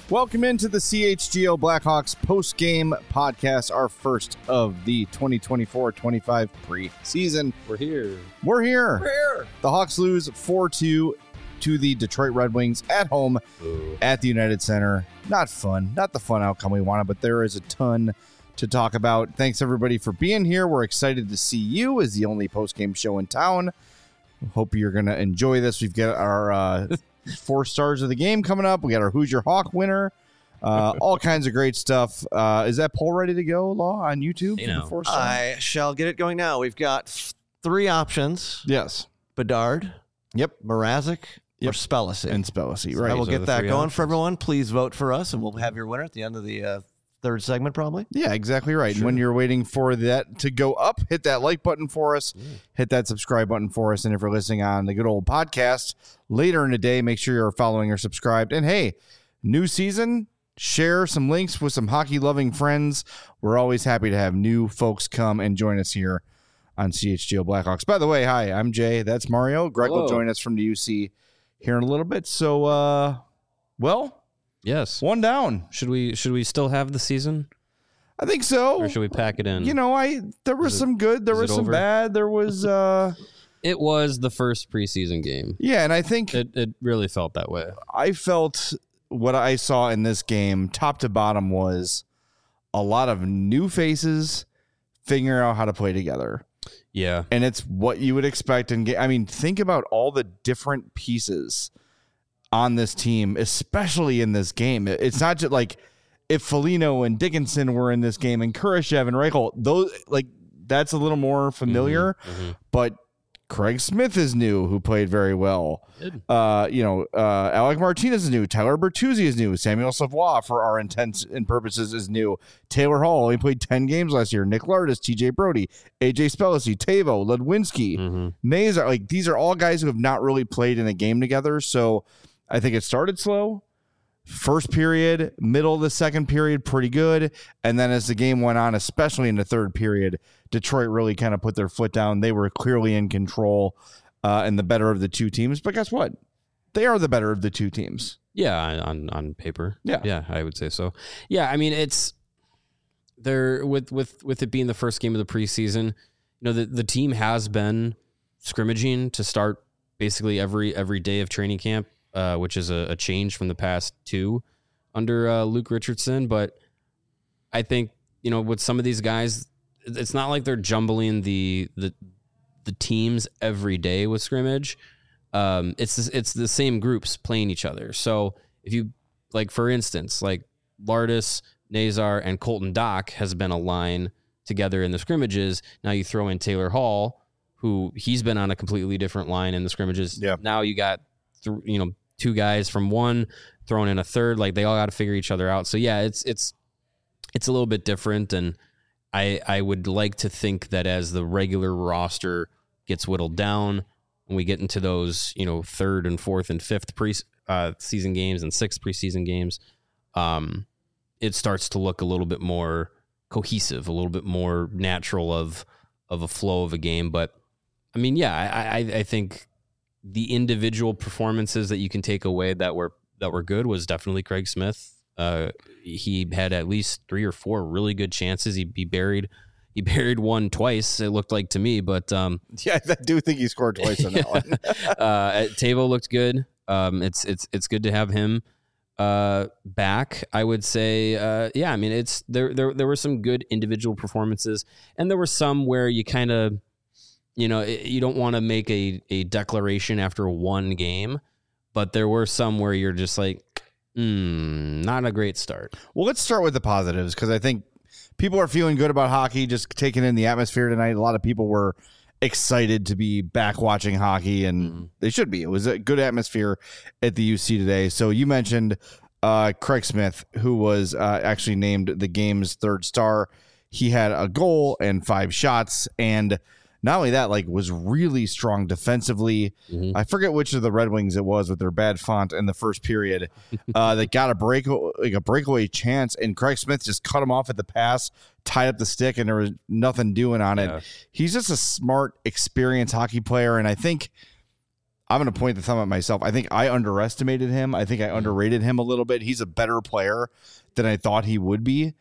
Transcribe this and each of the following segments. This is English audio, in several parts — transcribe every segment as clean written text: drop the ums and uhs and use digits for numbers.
Welcome into the CHGO Blackhawks post-game podcast, our first of the 2024-25 preseason. We're here. The Hawks lose 4-2 to the Detroit Red Wings at home at the United Center. Not fun. Not the fun outcome we wanted, but there is a ton to talk about. Thanks, everybody, for being here. We're excited to see you as the only post-game show in town. Hope you're going to enjoy this. We've got our 4 stars of the game coming up. We got our Who's Your Hawk winner. All kinds of great stuff. Is that poll ready to go, Law, on YouTube? You know, I shall get it going now. We've got 3 options. Yes. Bedard. Yep. Mrazek. Or Spellacy. And Spellacy, So right. I will get that going options for everyone. Please vote for us, and we'll have your winner at the end of the third segment, probably. Yeah, exactly right. Sure. And when you're waiting for that to go up, hit that like button for us, hit that subscribe button for us, and if you're listening on the good old podcast later in the day, make sure you're following or subscribed. And hey, new season, share some links with some hockey-loving friends. We're always happy to have new folks come and join us here on CHGO Blackhawks. By the way, hi, I'm Jay. That's Mario. Greg will join us from the UC here in a little bit. So, Yes. one down. Should we still have the season, I think so. or should we pack it in? You know, there was some good, there was some over? bad, there was It was the first preseason game. yeah, and I think It really felt that way. I felt what I saw in this game, top to bottom, was a lot of new faces figuring out how to play together. Yeah. And it's what you would expect. I mean, think about all the different pieces on this team, especially in this game. It's not just like if Foligno and Dickinson were in this game and Kurashev and Reichel, those, like, that's a little more familiar. But Craig Smith is new, who played very well. Alec Martinez is new. Tyler Bertuzzi is new. Samuel Savoie, for our intents and purposes, is new. Taylor Hall only played 10 games last year. Nick Lardis, TJ Brody, AJ Spellacy, Tavo, Ledwinski, Nazar. Like, these are all guys who have not really played in a game together. So I think it started slow. First period, middle of the second period, pretty good. And then as the game went on, especially in the third period, Detroit really kind of put their foot down. They were clearly in control and the better of the two teams. But guess what? They are the better of the two teams. Yeah, on paper. Yeah. Yeah, I would say so. Yeah, I mean, it's there with it being the first game of the preseason. You know, the team has been scrimmaging to start basically every day of training camp. Which is a change from the past 2 under Luke Richardson. But I think, you know, with some of these guys, it's not like they're jumbling the teams every day with scrimmage. It's the same groups playing each other. So if you, like, for instance, like Lardis, Nazar, and Colton Dock has been a line together in the scrimmages. Now you throw in Taylor Hall, who he's been on a completely different line in the scrimmages. Yeah. Now you got 2 guys from one thrown in a third. Like, they all got to figure each other out. So yeah, it's a little bit different. And I would like to think that as the regular roster gets whittled down and we get into those, third and fourth and fifth season games and 6th preseason games, it starts to look a little bit more cohesive, a little bit more natural of a flow of a game. But I mean, yeah, I think the individual performances that you can take away that were good was definitely Craig Smith. He had at least 3 or 4 really good chances. He buried one twice, it looked like to me, but Yeah, I do think he scored twice on that one. Tavo looked good. It's good to have him back. I would say, yeah. I mean, there were some good individual performances, and there were some where you kind of, you don't want to make a declaration after one game, but there were some where you're just like, not a great start. Well, let's start with the positives, because I think people are feeling good about hockey, just taking in the atmosphere tonight. A lot of people were excited to be back watching hockey, and they should be. It was a good atmosphere at the UC today. So you mentioned Craig Smith, who was actually named the game's 3rd star. He had a goal and 5 shots, and not only that, like, was really strong defensively. I forget which of the Red Wings it was with their bad font in the first period that got a breakaway chance, and Craig Smith just cut him off at the pass, tied up the stick, and there was nothing doing on it. He's just a smart, experienced hockey player, and I think I'm going to point the thumb at myself. I think I underestimated him. I think I underrated him a little bit. He's a better player than I thought he would be.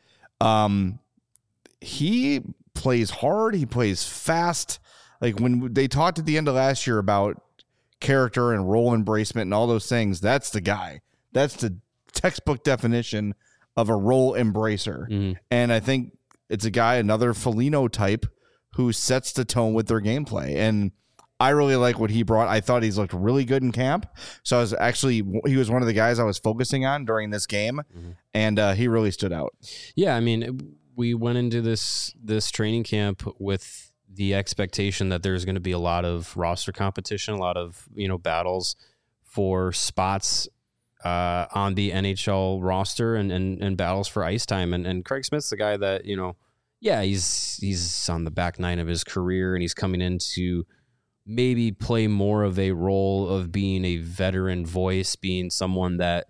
He plays hard. He plays fast. Like when they talked at the end of last year about character and role embracement and all those things, that's the guy. That's the textbook definition of a role embracer. And I think it's a guy, another Foligno type, who sets the tone with their gameplay. And I really like what he brought. I thought he's looked really good in camp. So he was one of the guys I was focusing on during this game, and he really stood out. Yeah, I mean, we went into this training camp with the expectation that there's going to be a lot of roster competition, a lot of battles for spots on the NHL roster and battles for ice time. And Craig Smith's the guy that he's on the back nine of his career, and he's coming in to maybe play more of a role of being a veteran voice, being someone that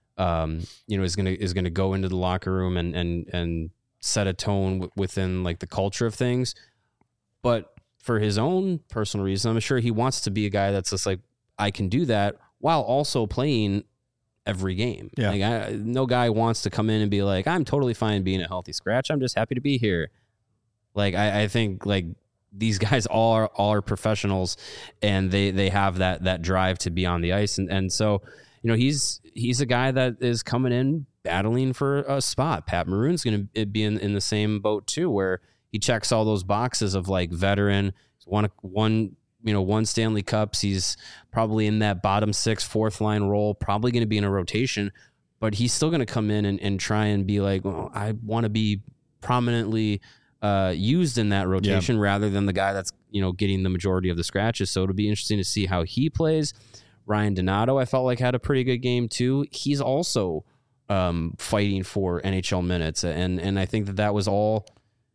is gonna go into the locker room and set a tone within like the culture of things. But for his own personal reason, I'm sure he wants to be a guy that's just like, I can do that while also playing every game. Yeah. Like no guy wants to come in and be like, I'm totally fine being a healthy scratch. I'm just happy to be here. Like I think like these guys all are professionals, and they have that drive to be on the ice. And so, he's a guy that is coming in battling for a spot. Pat Maroon's going to be in the same boat too, where he checks all those boxes of like veteran, one Stanley Cups. He's probably in that bottom six, fourth line role, probably going to be in a rotation, but he's still going to come in and try and be like, well, I want to be prominently used in that rotation rather than the guy that's, getting the majority of the scratches. So it'll be interesting to see how he plays. Ryan Donato, I felt like, had a pretty good game too. He's also fighting for NHL minutes. And I think that was all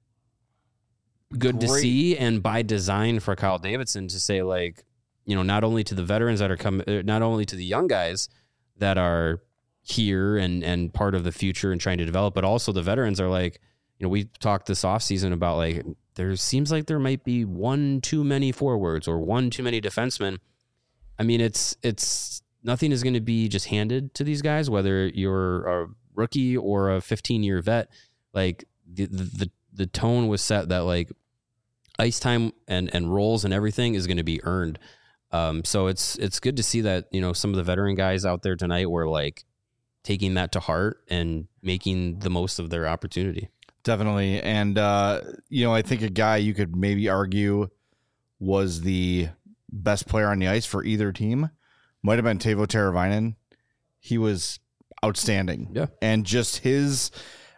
good to see, and by design for Kyle Davidson to say, like, not only to the veterans that are coming, not only to the young guys that are here and part of the future and trying to develop, but also the veterans are like, we talked this offseason about like, there seems like there might be one too many forwards or one too many defensemen. I mean, it's nothing is going to be just handed to these guys, whether you're a rookie or a 15-year vet. Like the tone was set that like ice time and roles and everything is going to be earned. So it's good to see that, some of the veteran guys out there tonight were like taking that to heart and making the most of their opportunity. Definitely. And, I think a guy you could maybe argue was the best player on the ice for either team might have been Teuvo Teravainen. He was outstanding. Yeah. And just his,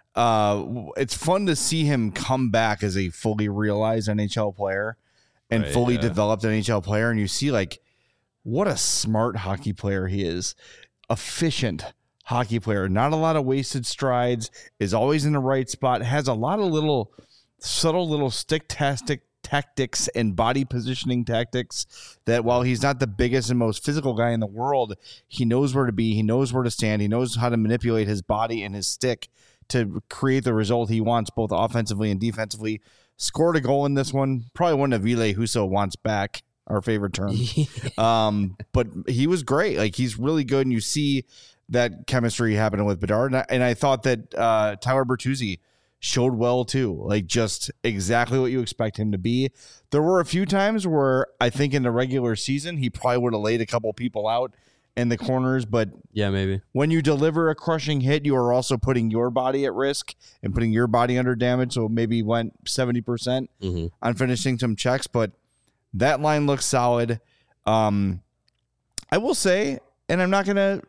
it's fun to see him come back as a fully realized NHL player and fully developed NHL player. And you see like what a smart hockey player he is. Efficient hockey player, not a lot of wasted strides, is always in the right spot, has a lot of little subtle little stick-tastic tactics and body positioning tactics that while he's not the biggest and most physical guy in the world, he knows where to be, he knows where to stand, he knows how to manipulate his body and his stick to create the result he wants both offensively and defensively. Scored a goal in this one, probably one of Ville Husso wants back, our favorite term. But he was great. Like, he's really good, and you see that chemistry happening with Bedard. And I thought that Tyler Bertuzzi showed well too, like just exactly what you expect him to be. There were a few times where I think in the regular season, he probably would have laid a couple people out in the corners, but yeah, maybe when you deliver a crushing hit, you are also putting your body at risk and putting your body under damage. So maybe went 70% on finishing some checks, but that line looks solid. I will say, and I'm not going to,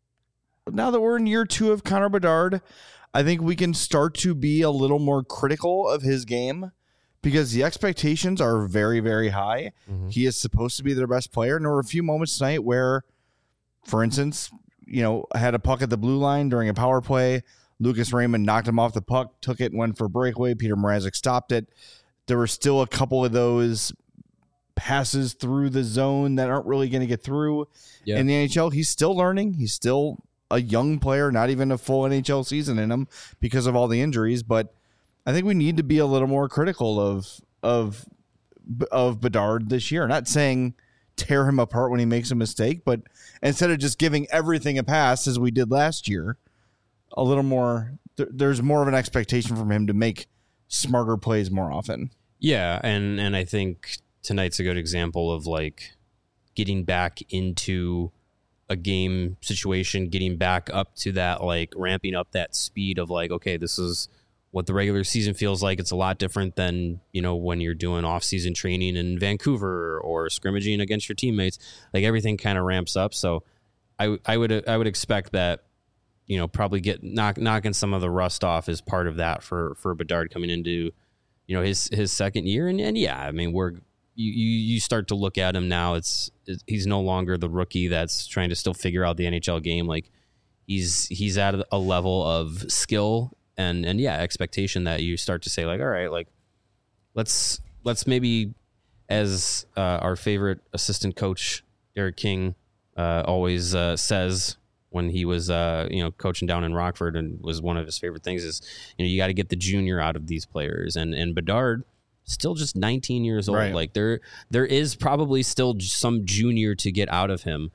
now that we're in year 2 of Connor Bedard, I think we can start to be a little more critical of his game because the expectations are very, very high. He is supposed to be their best player. And there were a few moments tonight where, for instance, I had a puck at the blue line during a power play. Lucas Raymond knocked him off the puck, took it, went for a breakaway. Peter Mrazek stopped it. There were still a couple of those passes through the zone that aren't really going to get through. In the NHL. He's still learning. He's still a young player, not even a full NHL season in him because of all the injuries. But I think we need to be a little more critical of Bedard this year. Not saying tear him apart when he makes a mistake, but instead of just giving everything a pass as we did last year, a little more, there's more of an expectation from him to make smarter plays more often. Yeah, and I think tonight's a good example of like getting back into a game situation, getting back up to that, like ramping up that speed of like, okay, this is what the regular season feels like. It's a lot different than, you know, when you're doing off-season training in Vancouver or scrimmaging against your teammates. Like everything kind of ramps up. So I would expect that, you know, probably knocking some of the rust off is part of that for Bedard coming into, you know, his second year. And yeah, I mean, you start to look at him now. He's no longer the rookie that's trying to still figure out the NHL game. Like he's at a level of skill and yeah, expectation that you start to say like, all right, like let's maybe, as our favorite assistant coach Derek King always says when he was coaching down in Rockford, and was one of his favorite things is, you know, you got to get the junior out of these players, and Bedard still just 19 years old. Right. Like there is probably still some junior to get out of him.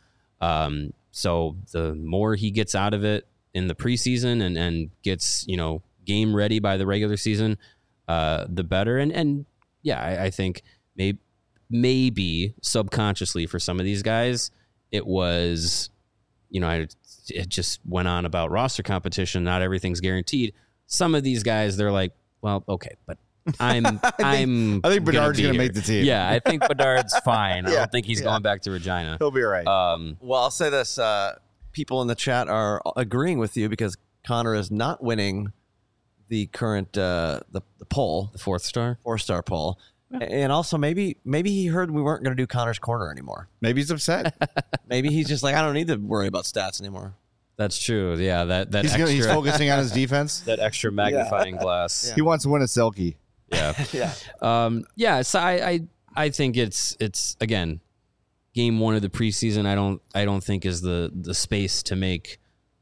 So the more he gets out of it in the preseason and gets, you know, game ready by the regular season, the better. And yeah, I think maybe subconsciously for some of these guys, it was, you know, it just went on about roster competition. Not everything's guaranteed. Some of these guys, they're like, well, okay, but I think Bedard's going to make the team. Yeah, I think Bedard's fine. I Yeah, don't think he's going back to Regina. He'll be all right. Well, I'll say this. People in the chat are agreeing with you because Connor is not winning the current the poll, The 4-star poll. And also maybe he heard we weren't going to do Connor's Corner anymore. Maybe he's upset. Maybe he's just like, I don't need to worry about stats anymore. That's true. Yeah, that He's focusing on his defense. that extra magnifying glass. He wants to win a Selkie. Yeah. Yeah. So I think it's again, game one of the preseason. I don't think is the space to make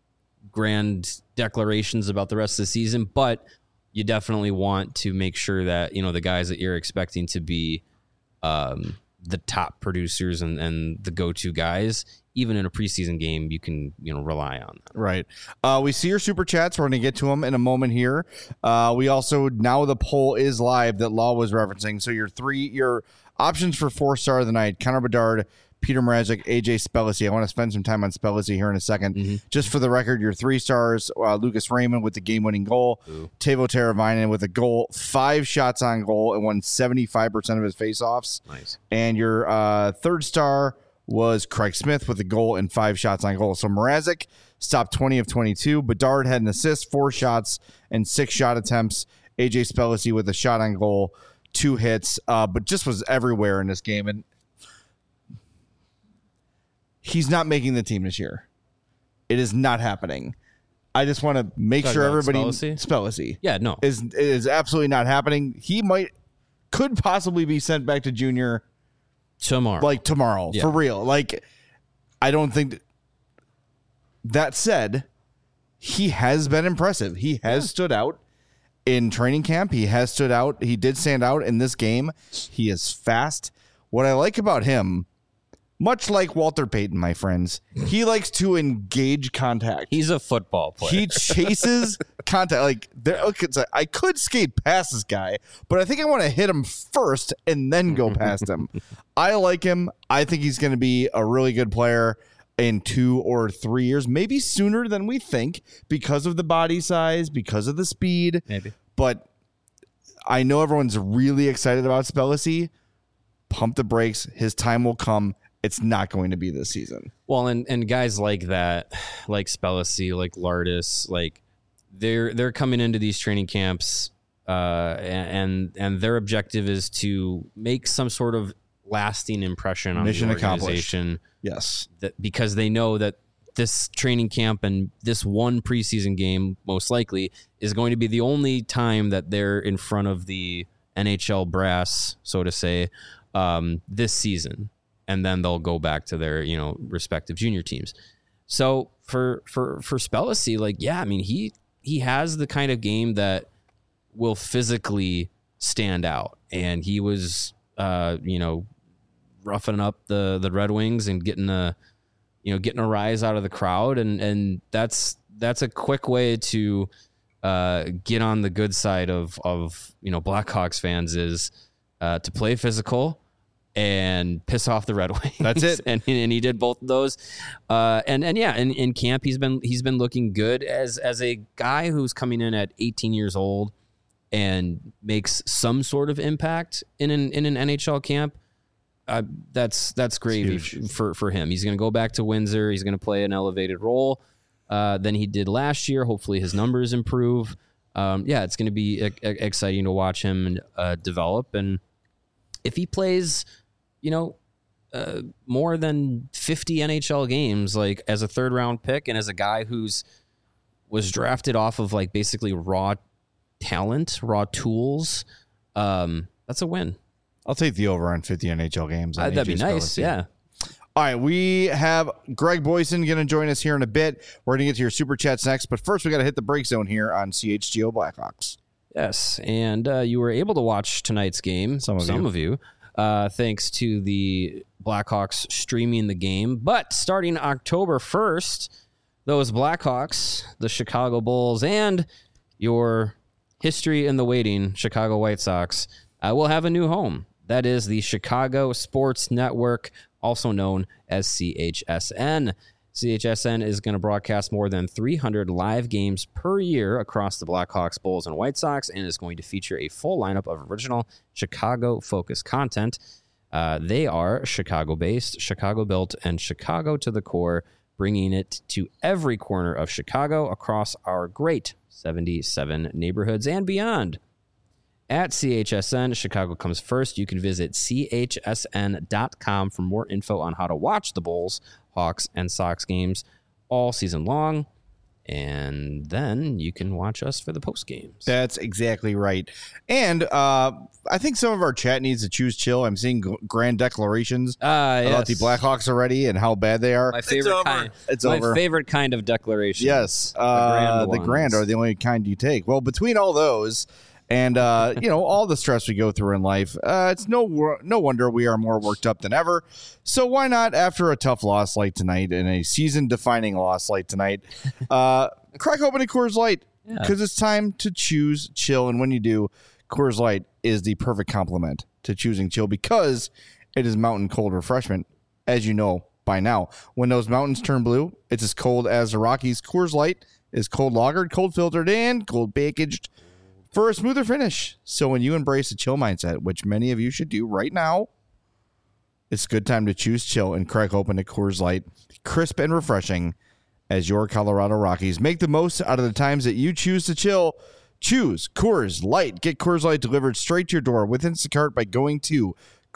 grand declarations about the rest of the season, but you definitely want to make sure that, you know, the guys that you're expecting to be the top producers and the go-to guys, even in a preseason game, you can, you know, rely on that. Right. We see your super chats. We're going to get to them in a moment here. We also, now the poll is live that Law was referencing. So your options for 4-star of the night: Connor Bedard, Peter Mrazek, AJ Spellici. I want to spend some time on Spellici here in a second. Mm-hmm. Just for the record, your 3 stars, Lucas Raymond with the game-winning goal, Teuvo Teravainen with a goal, 5 shots on goal, and won 75% of his faceoffs. Nice. And your 3rd star was Craig Smith with a goal and 5 shots on goal. So Mrazek stopped 20 of 22. Bedard had an assist, 4 shots, and 6 shot attempts. AJ Spellici with a shot on goal, 2 hits, but just was everywhere in this game. And he's not making the team this year. It is not happening. I just want to make sure everybody... Spellici. Yeah, no. It is absolutely not happening. He could possibly be sent back to junior tomorrow. Like tomorrow, for real. Like, I don't think... That said, he has been impressive. He has stood out in training camp. He has stood out. He did stand out in this game. He is fast. What I like about him, much like Walter Payton, my friends, he likes to engage contact. He's a football player. He chases contact. Like, I could skate past this guy, but I think I want to hit him first and then go past him. I like him. I think he's going to be a really good player in 2 or 3 years, maybe sooner than we think, because of the body size, because of the speed. Maybe. But I know everyone's really excited about Spellici. Pump the brakes. His time will come. It's not going to be this season. Well, and guys like that, like Spellici, like Lardis, like they're coming into these training camps, and their objective is to make some sort of lasting impression on Mission the organization. Yes, because they know that this training camp and this one preseason game most likely is going to be the only time that they're in front of the NHL brass, so to say, this season. And then they'll go back to their, you know, respective junior teams. So for Spellici, like, yeah, I mean, he has the kind of game that will physically stand out. And he was, roughing up the Red Wings and getting a rise out of the crowd, and that's a quick way to get on the good side of Blackhawks fans is to play physical and piss off the Red Wings. That's it. and he did both of those. In camp he's been looking good as a guy who's coming in at 18 years old and makes some sort of impact in an NHL camp. That's gravy for him. He's going to go back to Windsor. He's going to play an elevated role than he did last year. Hopefully his numbers improve. It's going to be exciting to watch him develop. And if he plays, more than 50 NHL games, like as a 3rd round pick and as a guy was drafted off of like basically raw talent, raw tools, that's a win. I'll take the over on 50 NHL games. That'd be nice. Yeah. All right, we have Greg Boyson going to join us here in a bit. We're going to get to your super chats next, but first we got to hit the break zone here on CHGO Blackhawks. Yes, and you were able to watch tonight's game. Some of you, thanks to the Blackhawks streaming the game. But starting October 1st, those Blackhawks, the Chicago Bulls, and your history in the waiting Chicago White Sox will have a new home. That is the Chicago Sports Network, also known as CHSN. CHSN is going to broadcast more than 300 live games per year across the Blackhawks, Bulls, and White Sox, and is going to feature a full lineup of original Chicago-focused content. They are Chicago-based, Chicago-built, and Chicago to the core, bringing it to every corner of Chicago across our great 77 neighborhoods and beyond. At CHSN, Chicago comes first. You can visit chsn.com for more info on how to watch the Bulls, Hawks, and Sox games all season long. And then you can watch us for the post games. That's exactly right. And I think some of our chat needs to choose chill. I'm seeing grand declarations about the Blackhawks already and how bad they are. My favorite kind. It's my over. favorite kind of declaration. Yes. The grand are the only kind you take. Well, between all those and, all the stress we go through in life, it's no wonder we are more worked up than ever. So why not, after a tough loss like tonight and a season-defining loss like tonight, crack open a Coors Light, because it's time to choose chill. And when you do, Coors Light is the perfect complement to choosing chill because it is mountain cold refreshment, as you know by now. When those mountains turn blue, it's as cold as the Rockies. Coors Light is cold lagered, cold filtered, and cold packaged for a smoother finish. So when you embrace a chill mindset, which many of you should do right now, it's a good time to choose chill and crack open a Coors Light, crisp and refreshing as your Colorado Rockies. Make the most out of the times that you choose to chill. Choose Coors Light. Get Coors Light delivered straight to your door with Instacart by going to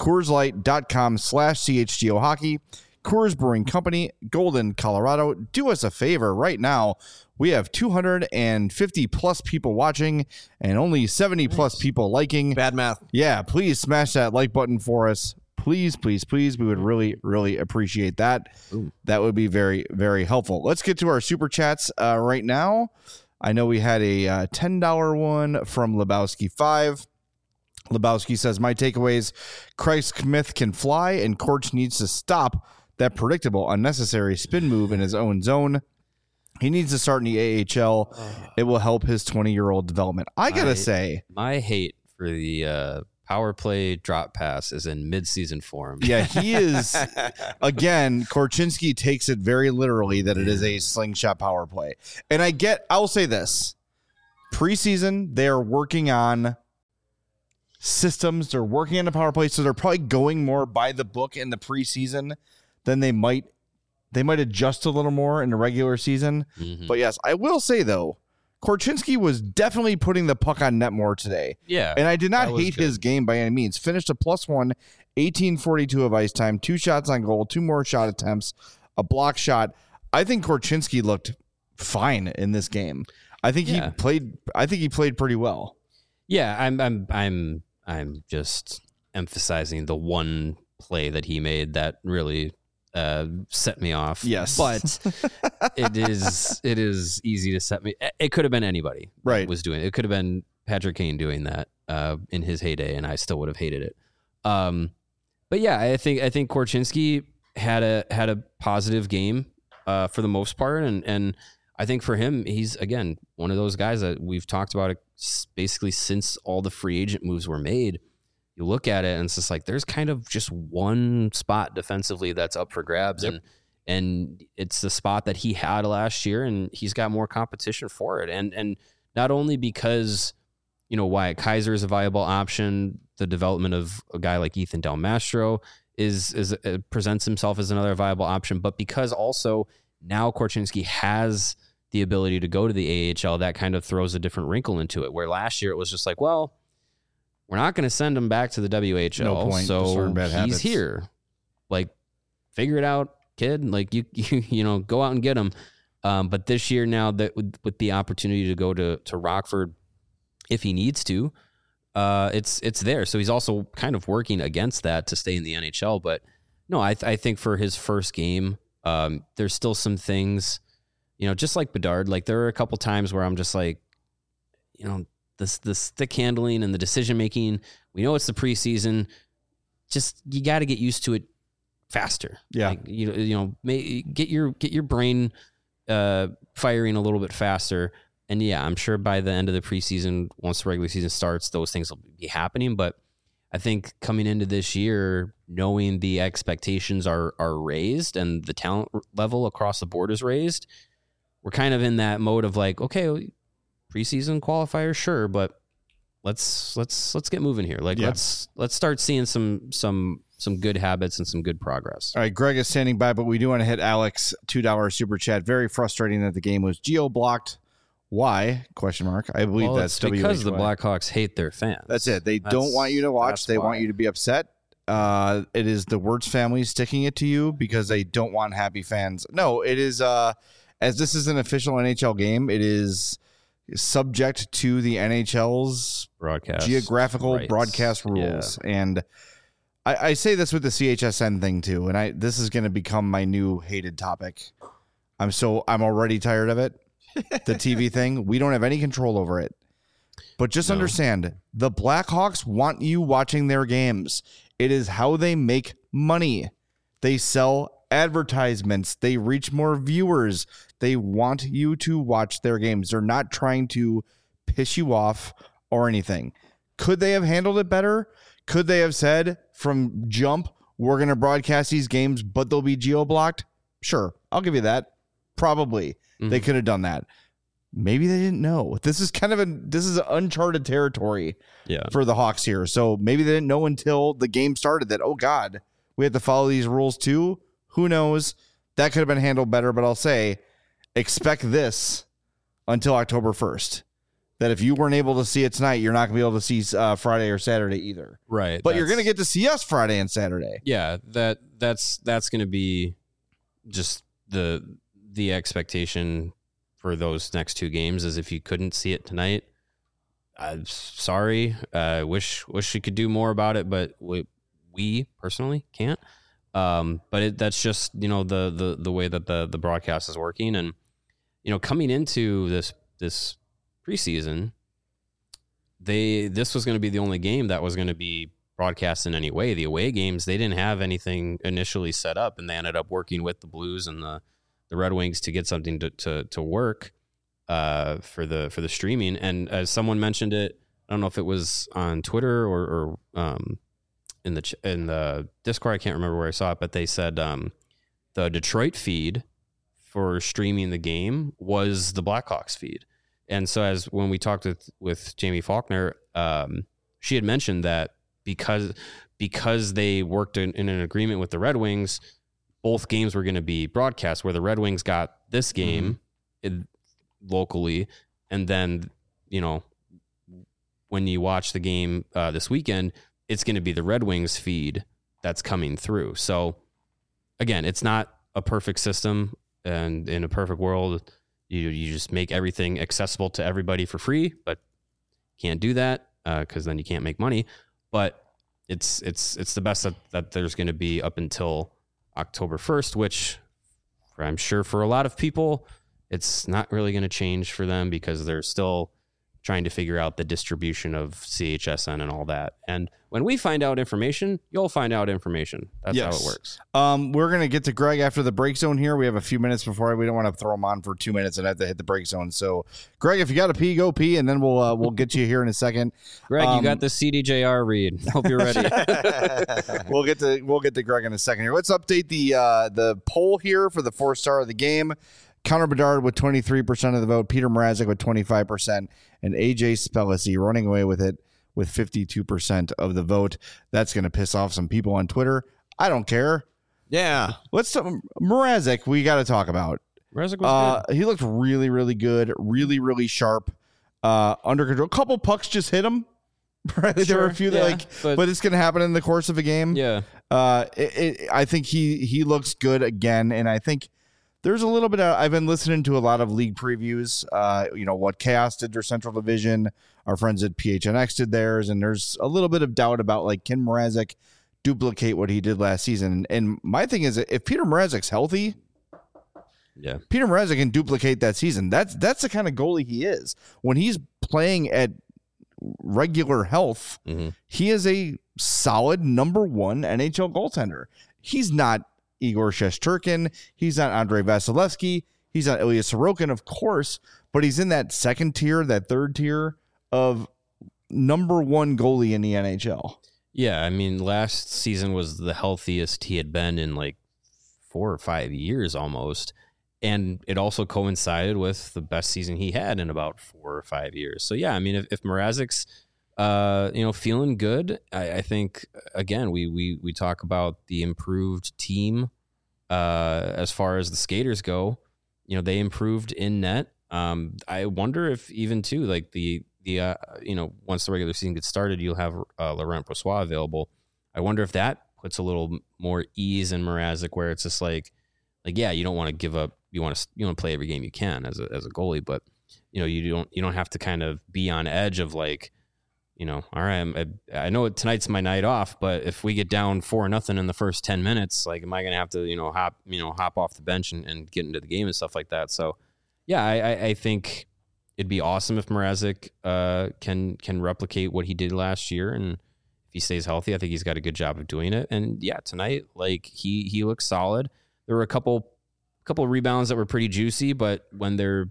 CoorsLight.com/CHGO Hockey. Coors Brewing Company, Golden, Colorado. Do us a favor right now. We have 250 plus people watching and only 70 plus people liking. Bad math. Yeah, please smash that like button for us. Please, please, please. We would really, really appreciate that. Ooh. That would be very, very helpful. Let's get to our super chats right now. I know we had a $10 one from Lebowski5. Lebowski says, my takeaways, Craig Smith can fly and Korch needs to stop that predictable, unnecessary spin move in his own zone. He needs to start in the AHL. It will help his 20-year-old development. I got to say, my hate for the power play drop pass is in midseason form. Yeah, he is. Again, Korchinski takes it very literally that it is a slingshot power play. And I'll say this. Preseason, they're working on systems. They're working on the power play, so they're probably going more by the book in the preseason than they might adjust a little more in the regular season. Mm-hmm. But yes, I will say, though, Korchinski was definitely putting the puck on net more today. Yeah. And I did not hate his game by any means. Finished a +1, 18:42 of ice time, 2 shots on goal, 2 more shot attempts, a block shot. I think Korchinski looked fine in this game. I think he played pretty well. Yeah, I'm just emphasizing the one play that he made that really set me off. Yes, but it is easy to set me. It could have been anybody, right? Was doing it. It could have been Patrick Kane doing that in his heyday, and I still would have hated it. But yeah, I think Korchinski had a positive game for the most part, and I think for him, he's again one of those guys that we've talked about it basically since all the free agent moves were made. You look at it and it's just like there's kind of just one spot defensively that's up for grabs, and it's the spot that he had last year, and he's got more competition for it, and not only because Wyatt Kaiser is a viable option, the development of a guy like Ethan Del Mastro is presents himself as another viable option, but because also now Korchinski has the ability to go to the AHL, that kind of throws a different wrinkle into it. Where last year it was just like, well, we're not going to send him back to the WHL, No point. so Bad he's habits. here. Like, figure it out, kid. Like you go out and get him. But this year now that with the opportunity to go to Rockford, if he needs to, it's there. So he's also kind of working against that to stay in the NHL. But no, I think for his first game, there's still some things, just like Bedard. Like there are a couple times where I'm just like, the stick handling and the decision making. We know it's the preseason. Just you got to get used to it faster. Yeah, like, get your brain firing a little bit faster. And yeah, I'm sure by the end of the preseason, once the regular season starts, those things will be happening. But I think coming into this year, knowing the expectations are raised and the talent level across the board is raised, we're kind of in that mode of like, okay, preseason qualifier, sure, but let's get moving here. Like let's start seeing some good habits and some good progress. All right, Greg is standing by, but we do want to hit Alex $2 super chat. Very frustrating that the game was geo-blocked. Why? Question mark. I believe that's because WHY. the Blackhawks hate their fans. That's it. They don't want you to watch. They want you to be upset. It is the Wirtz family sticking it to you because they don't want happy fans. No, it is as this is an official NHL game, it is subject to the NHL's broadcast geographial rights. Broadcast rules. Yeah. And I say this with the CHSN thing too, and this is going to become my new hated topic. I'm already tired of it. The TV thing, we don't have any control over it. But just understand, the Blackhawks want you watching their games. It is how they make money. They sell advertisements. They reach more viewers. They want you to watch their games. They're not trying to piss you off or anything. Could they have handled it better? Could they have said from jump, we're going to broadcast these games, but they'll be geo-blocked? Sure, I'll give you that. Probably. Mm-hmm. They could have done that. Maybe they didn't know. This is uncharted territory for the Hawks here. So maybe they didn't know until the game started that, oh God, we have to follow these rules too. Who knows? That could have been handled better, but I'll say expect this until October 1st. That if you weren't able to see it tonight, you're not going to be able to see Friday or Saturday either. Right. But you're going to get to see us Friday and Saturday. Yeah, that's going to be just the expectation for those next two games is if you couldn't see it tonight, I'm sorry. Wish we could do more about it, but we personally can't. But that's just the way that the broadcast is working, and coming into this preseason, this was going to be the only game that was going to be broadcast in any way. The away games, they didn't have anything initially set up, and they ended up working with the Blues and the Red Wings to get something to work for the streaming. And as someone mentioned it, I don't know if it was on Twitter or in the Discord, I can't remember where I saw it, but they said the Detroit feed for streaming the game was the Blackhawks feed. And so when we talked with Jamie Faulkner, she had mentioned that because they worked in an agreement with the Red Wings, both games were going to be broadcast, where the Red Wings got this game locally. And then, when you watch the game this weekend, it's going to be the Red Wings feed that's coming through. So again, it's not a perfect system, and in a perfect world, you just make everything accessible to everybody for free, but can't do that because then you can't make money. But it's the best that there's going to be up until October 1st, which I'm sure for a lot of people, it's not really going to change for them because they're still trying to figure out the distribution of CHSN and all that. And when we find out information, you'll find out information. That's how it works. We're going to get to Greg after the break zone here. We have a few minutes before. We don't want to throw him on for 2 minutes and have to hit the break zone. So, Greg, if you got to pee, go pee, and then we'll get you here in a second. Greg, you got the CDJR read. Hope you're ready. We'll get to Greg in a second here. Let's update the poll here for the 4-star of the game. Connor Bedard with 23% of the vote, Peter Mrazek with 25%, and AJ Spellisy running away with it with 52% of the vote. That's going to piss off some people on Twitter. I don't care. Yeah. Let's talk Mrazek. We got to talk about. Mrazek was good. He looked really, really good, really, really sharp, under control. A couple pucks just hit him. Right? There were a few that but it's going to happen in the course of a game. Yeah. I think he looks good again, and I think there's a little bit of, I've been listening to a lot of league previews, what Chaos did their Central Division, our friends at PHNX did theirs, and there's a little bit of doubt about, like, can Mrazek duplicate what he did last season? And my thing is, if Peter Mrazek's healthy, Peter Mrazek can duplicate that season. That's the kind of goalie he is. When he's playing at regular health, he is a solid number 1 NHL goaltender. He's not Igor Shesterkin. He's not Andrei Vasilevsky. He's not Ilya Sorokin, of course, but he's in that second tier, that third tier of number 1 goalie in the NHL. Yeah, I mean, last season was the healthiest he had been in like 4 or 5 years almost. And it also coincided with the best season he had in about 4 or 5 years. So, yeah, I mean, if Mrazek's, feeling good, I think, again, we talk about the improved team as far as the skaters go. They improved in net. I wonder if even, too, like the once the regular season gets started, you'll have Laurent Brossoit available. I wonder if that puts a little more ease in Mrazek, where it's just like, yeah, you don't want to give up. You want to play every game you can as a goalie, but you don't have to kind of be on edge of like, all right, I know tonight's my night off, but if we get down 4-0 in the first 10 minutes, like, am I going to have to hop off the bench and get into the game and stuff like that? So, yeah, I think it'd be awesome if Mrazek can replicate what he did last year, and if he stays healthy, I think he's got a good job of doing it. And yeah, tonight, like, he looks solid. There were a couple rebounds that were pretty juicy, but when they're,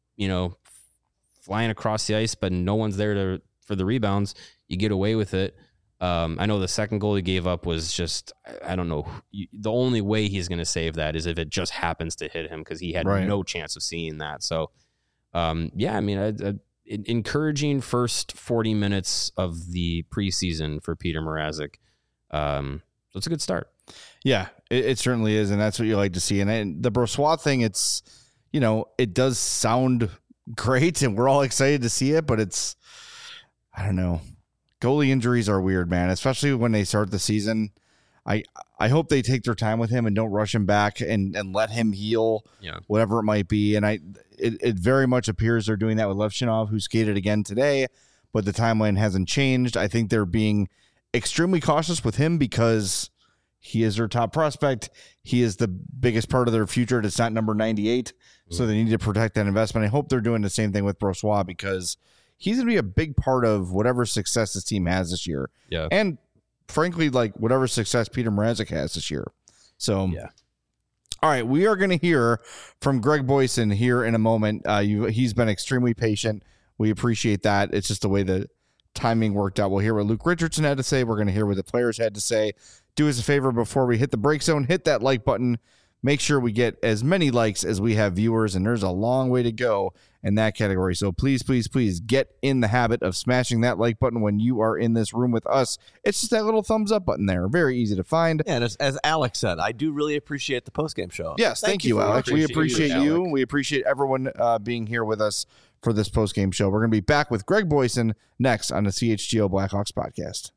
flying across the ice, but no one's there for the rebounds, you get away with it. I know the second goal he gave up was just, I don't know. The only way he's going to save that is if it just happens to hit him, because he had no chance of seeing that. So, yeah, I mean, encouraging first 40 minutes of the preseason for Peter Mrazek. So it's a good start. Yeah, it certainly is, and that's what you like to see. And the Brossoit thing, it's, it does sound great, and we're all excited to see it, but it's, I don't know. Goalie injuries are weird, man, especially when they start the season. I hope they take their time with him and don't rush him back and let him heal, whatever it might be. And it very much appears they're doing that with Levchinov, who skated again today, but the timeline hasn't changed. I think they're being extremely cautious with him because he is their top prospect. He is the biggest part of their future. It's not number 98, so they need to protect that investment. I hope they're doing the same thing with Brossoit, because he's going to be a big part of whatever success this team has this year. Yeah. And frankly, like, whatever success Peter Mrazek has this year. So, yeah. All right, we are going to hear from Greg Boysen here in a moment. He's been extremely patient. We appreciate that. It's just the way the timing worked out. We'll hear what Luke Richardson had to say. We're going to hear what the players had to say. Do us a favor before we hit the break zone. Hit that like button. Make sure we get as many likes as we have viewers, and there's a long way to go in that category. So please, please, please get in the habit of smashing that like button when you are in this room with us. It's just that little thumbs up button there. Very easy to find. Yeah, and as Alex said, I do really appreciate the postgame show. Yes, thank you, Alex. We appreciate you. We appreciate everyone being here with us for this postgame show. We're going to be back with Greg Boysen next on the CHGO Blackhawks podcast.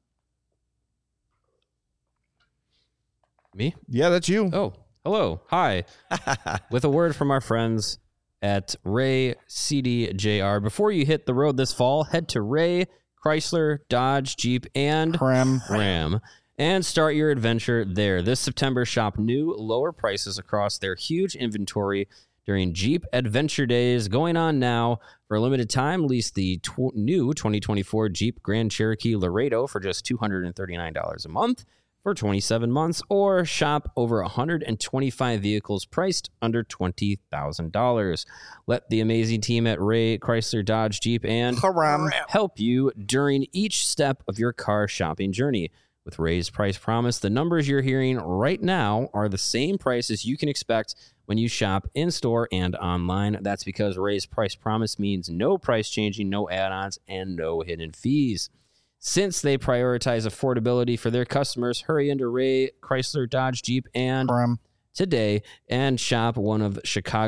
Me? Yeah, that's you. Oh, hello. Hi. With a word from our friends at Ray CDJR. Before you hit the road this fall, head to Ray, Chrysler, Dodge, Jeep, and Ram and start your adventure there. This September, shop new, lower prices across their huge inventory during Jeep Adventure Days going on now. For a limited time, lease the new 2024 Jeep Grand Cherokee Laredo for just $239 a month for 27 months, or shop over 125 vehicles priced under $20,000. Let the amazing team at Ray Chrysler Dodge Jeep and help you during each step of your car shopping journey. With Ray's Price Promise, the numbers you're hearing right now are the same prices you can expect when you shop in-store and online. That's because Ray's Price Promise means no price changing, no add-ons, and no hidden fees. Since they prioritize affordability for their customers, hurry into Ray Chrysler Dodge Jeep and today and shop one of the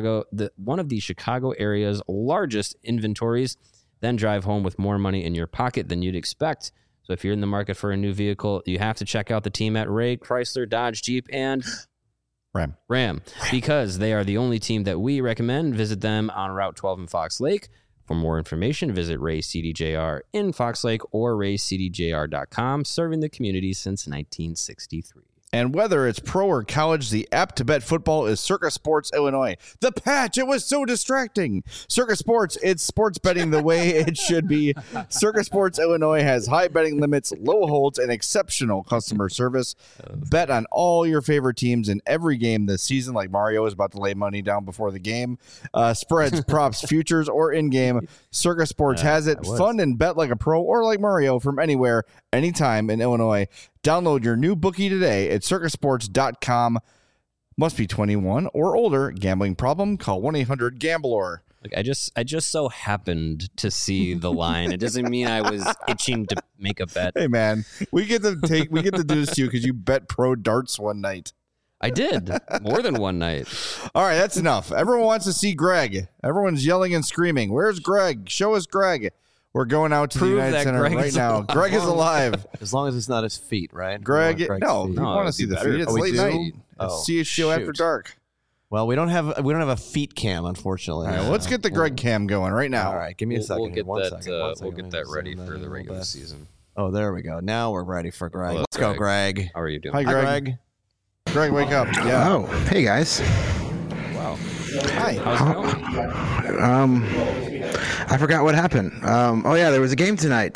Chicago area's largest inventories. Then drive home with more money in your pocket than you'd expect. So if you're in the market for a new vehicle, you have to check out the team at Ray Chrysler Dodge Jeep and Ram, because they are the only team that we recommend. Visit them on Route 12 in Fox Lake. For more information, visit Ray CDJR in Fox Lake or raycdjr.com, serving the community since 1963. And whether it's pro or college, the app to bet football is Circa Sports Illinois. The patch, it was so distracting. Circa Sports, it's sports betting the way it should be. Circa Sports Illinois has high betting limits, low holds, and exceptional customer service. Bet on all your favorite teams in every game this season, like Mario is about to lay money down before the game. Spreads, props, futures, or in-game. Circa Sports has it. Fun and bet like a pro or like Mario from anywhere, anytime in Illinois. Download your new bookie today at circasports.com. Must be 21 or older. Gambling problem? Call 1-800-GAMBLER. Like I just so happened to see the line. It doesn't mean I was itching to make a bet. Hey man, we get to do this to you because you bet pro darts one night. I did more than one night. All right, that's enough. Everyone wants to see Greg. Everyone's yelling and screaming. Where's Greg? Show us Greg. We're going out to the United Center right now. Greg is alive. As long as it's not his feet, right? Greg, no, we want to see the feet. It's late night. See a show after dark. Well, we don't have a feet cam, unfortunately. All right, let's get the Greg cam going right now. All right, give me a second. We'll get that ready for the regular season. Oh, there we go. Now we're ready for Greg. Let's go, Greg. How are you doing? Hi, Greg. Greg, wake up. Yeah. Oh, hey guys. Wow. Hi. How's it going? I forgot what happened. Oh yeah, there was a game tonight.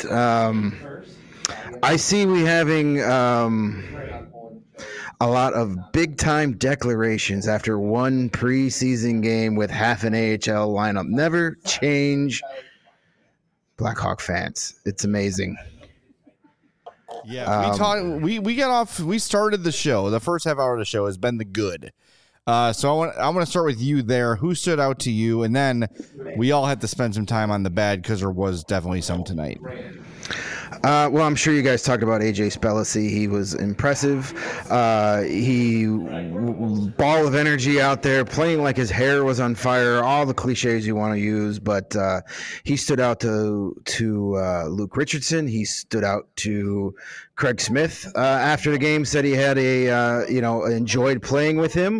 I see we having a lot of big time declarations after one preseason game with half an AHL lineup. Never change, Blackhawk fans. It's amazing. Yeah, we started the show. The first half hour of the show has been the good. So I want to start with you there. Who stood out to you? And then we all had to spend some time on the bad because there was definitely some tonight. Well, I'm sure you guys talked about AJ Spellacy. He was impressive. Ball of energy out there, playing like his hair was on fire. All the cliches you want to use, but he stood out to Luke Richardson. He stood out to Craig Smith after the game. Said he had enjoyed playing with him.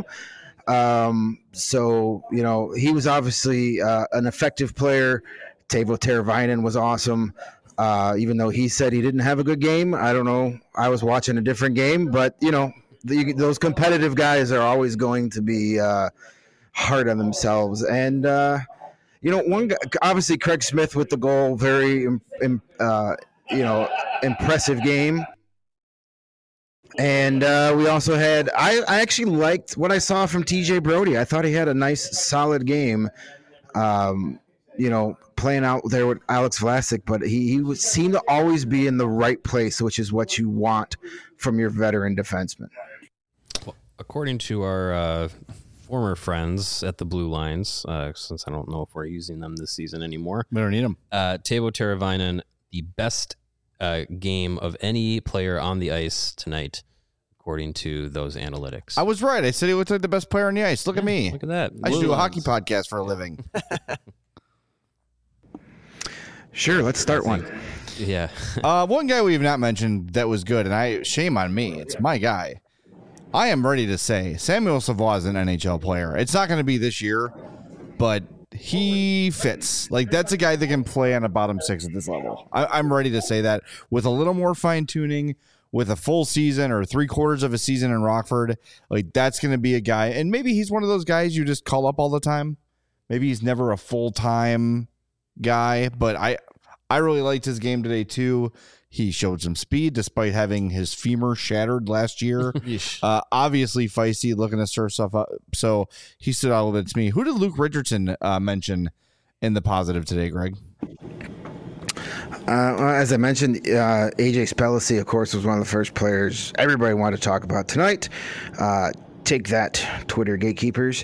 So he was obviously an effective player. Teuvo Teravainen was awesome. Even though he said he didn't have a good game. I don't know. I was watching a different game, but those competitive guys are always going to be hard on themselves. And one guy, obviously Craig Smith with the goal, very impressive game. And we also had. I actually liked what I saw from TJ Brody. I thought he had a nice, solid game. Playing out there with Alex Vlasic, but he seemed to always be in the right place, which is what you want from your veteran defenseman. Well, according to our former friends at the Blue Lines, since I don't know if we're using them this season anymore, We don't need them. Teuvo Teravainen, the best game of any player on the ice tonight, according to those analytics. I was right. I said he looked like the best player on the ice. Look at me. Look at that. I should do a hockey podcast for a living. Sure, let's start one. Yeah. One guy we've not mentioned that was good, and shame on me. It's my guy. I am ready to say Samuel Savoie is an NHL player. It's not going to be this year, but he fits. Like, that's a guy that can play on a bottom six at this level. I'm ready to say that with a little more fine-tuning, with a full season or 3/4 of a season in Rockford. Like, that's going to be a guy, and maybe he's one of those guys you just call up all the time. Maybe he's never a full-time guy, but I really liked his game today too. He showed some speed despite having his femur shattered last year. Obviously feisty, looking to stir stuff up. So he stood out a little bit to me. Who did Luke Richardson mention in the positive today, Greg? As I mentioned, AJ Spellacy, of course, was one of the first players everybody wanted to talk about tonight. Take that, Twitter gatekeepers.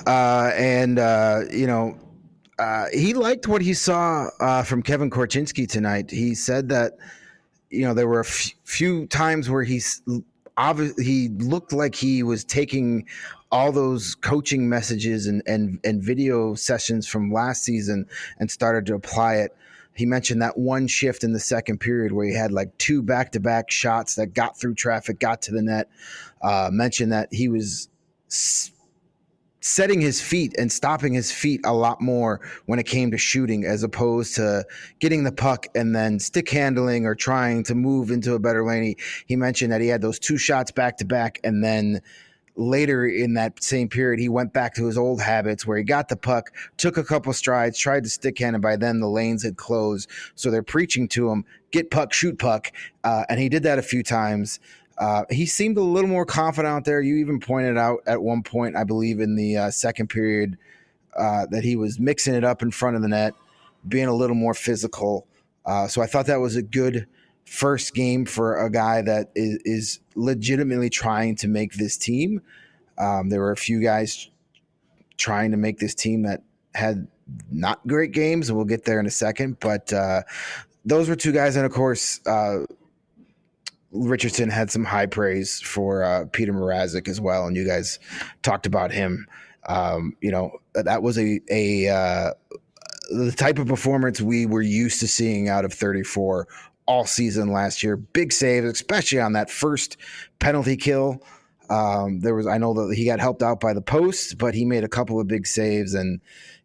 He liked what he saw from Kevin Korchinski tonight. He said that, there were a few times where he looked like he was taking all those coaching messages and video sessions from last season and started to apply it. He mentioned that one shift in the second period where he had like 2 back-to-back shots that got through traffic, got to the net. Mentioned that he was setting his feet and stopping his feet a lot more when it came to shooting, as opposed to getting the puck and then stick handling or trying to move into a better lane. He mentioned that he had those 2 shots back-to-back, and then later in that same period, he went back to his old habits where he got the puck, took a couple strides, tried to stick hand, and by then the lanes had closed. So they're preaching to him, get puck, shoot puck. And he did that a few times. He seemed a little more confident out there. You even pointed out at one point, I believe in the second period, that he was mixing it up in front of the net, being a little more physical. So I thought that was a good first game for a guy that is legitimately trying to make this team. There were a few guys trying to make this team that had not great games, and we'll get there in a second. But those were 2 guys, and of course, Richardson had some high praise for Peter Mrazek as well, and you guys talked about him. That was the type of performance we were used to seeing out of 34 all season last year. Big saves, especially on that first penalty kill. I know that he got helped out by the post, but he made a couple of big saves, and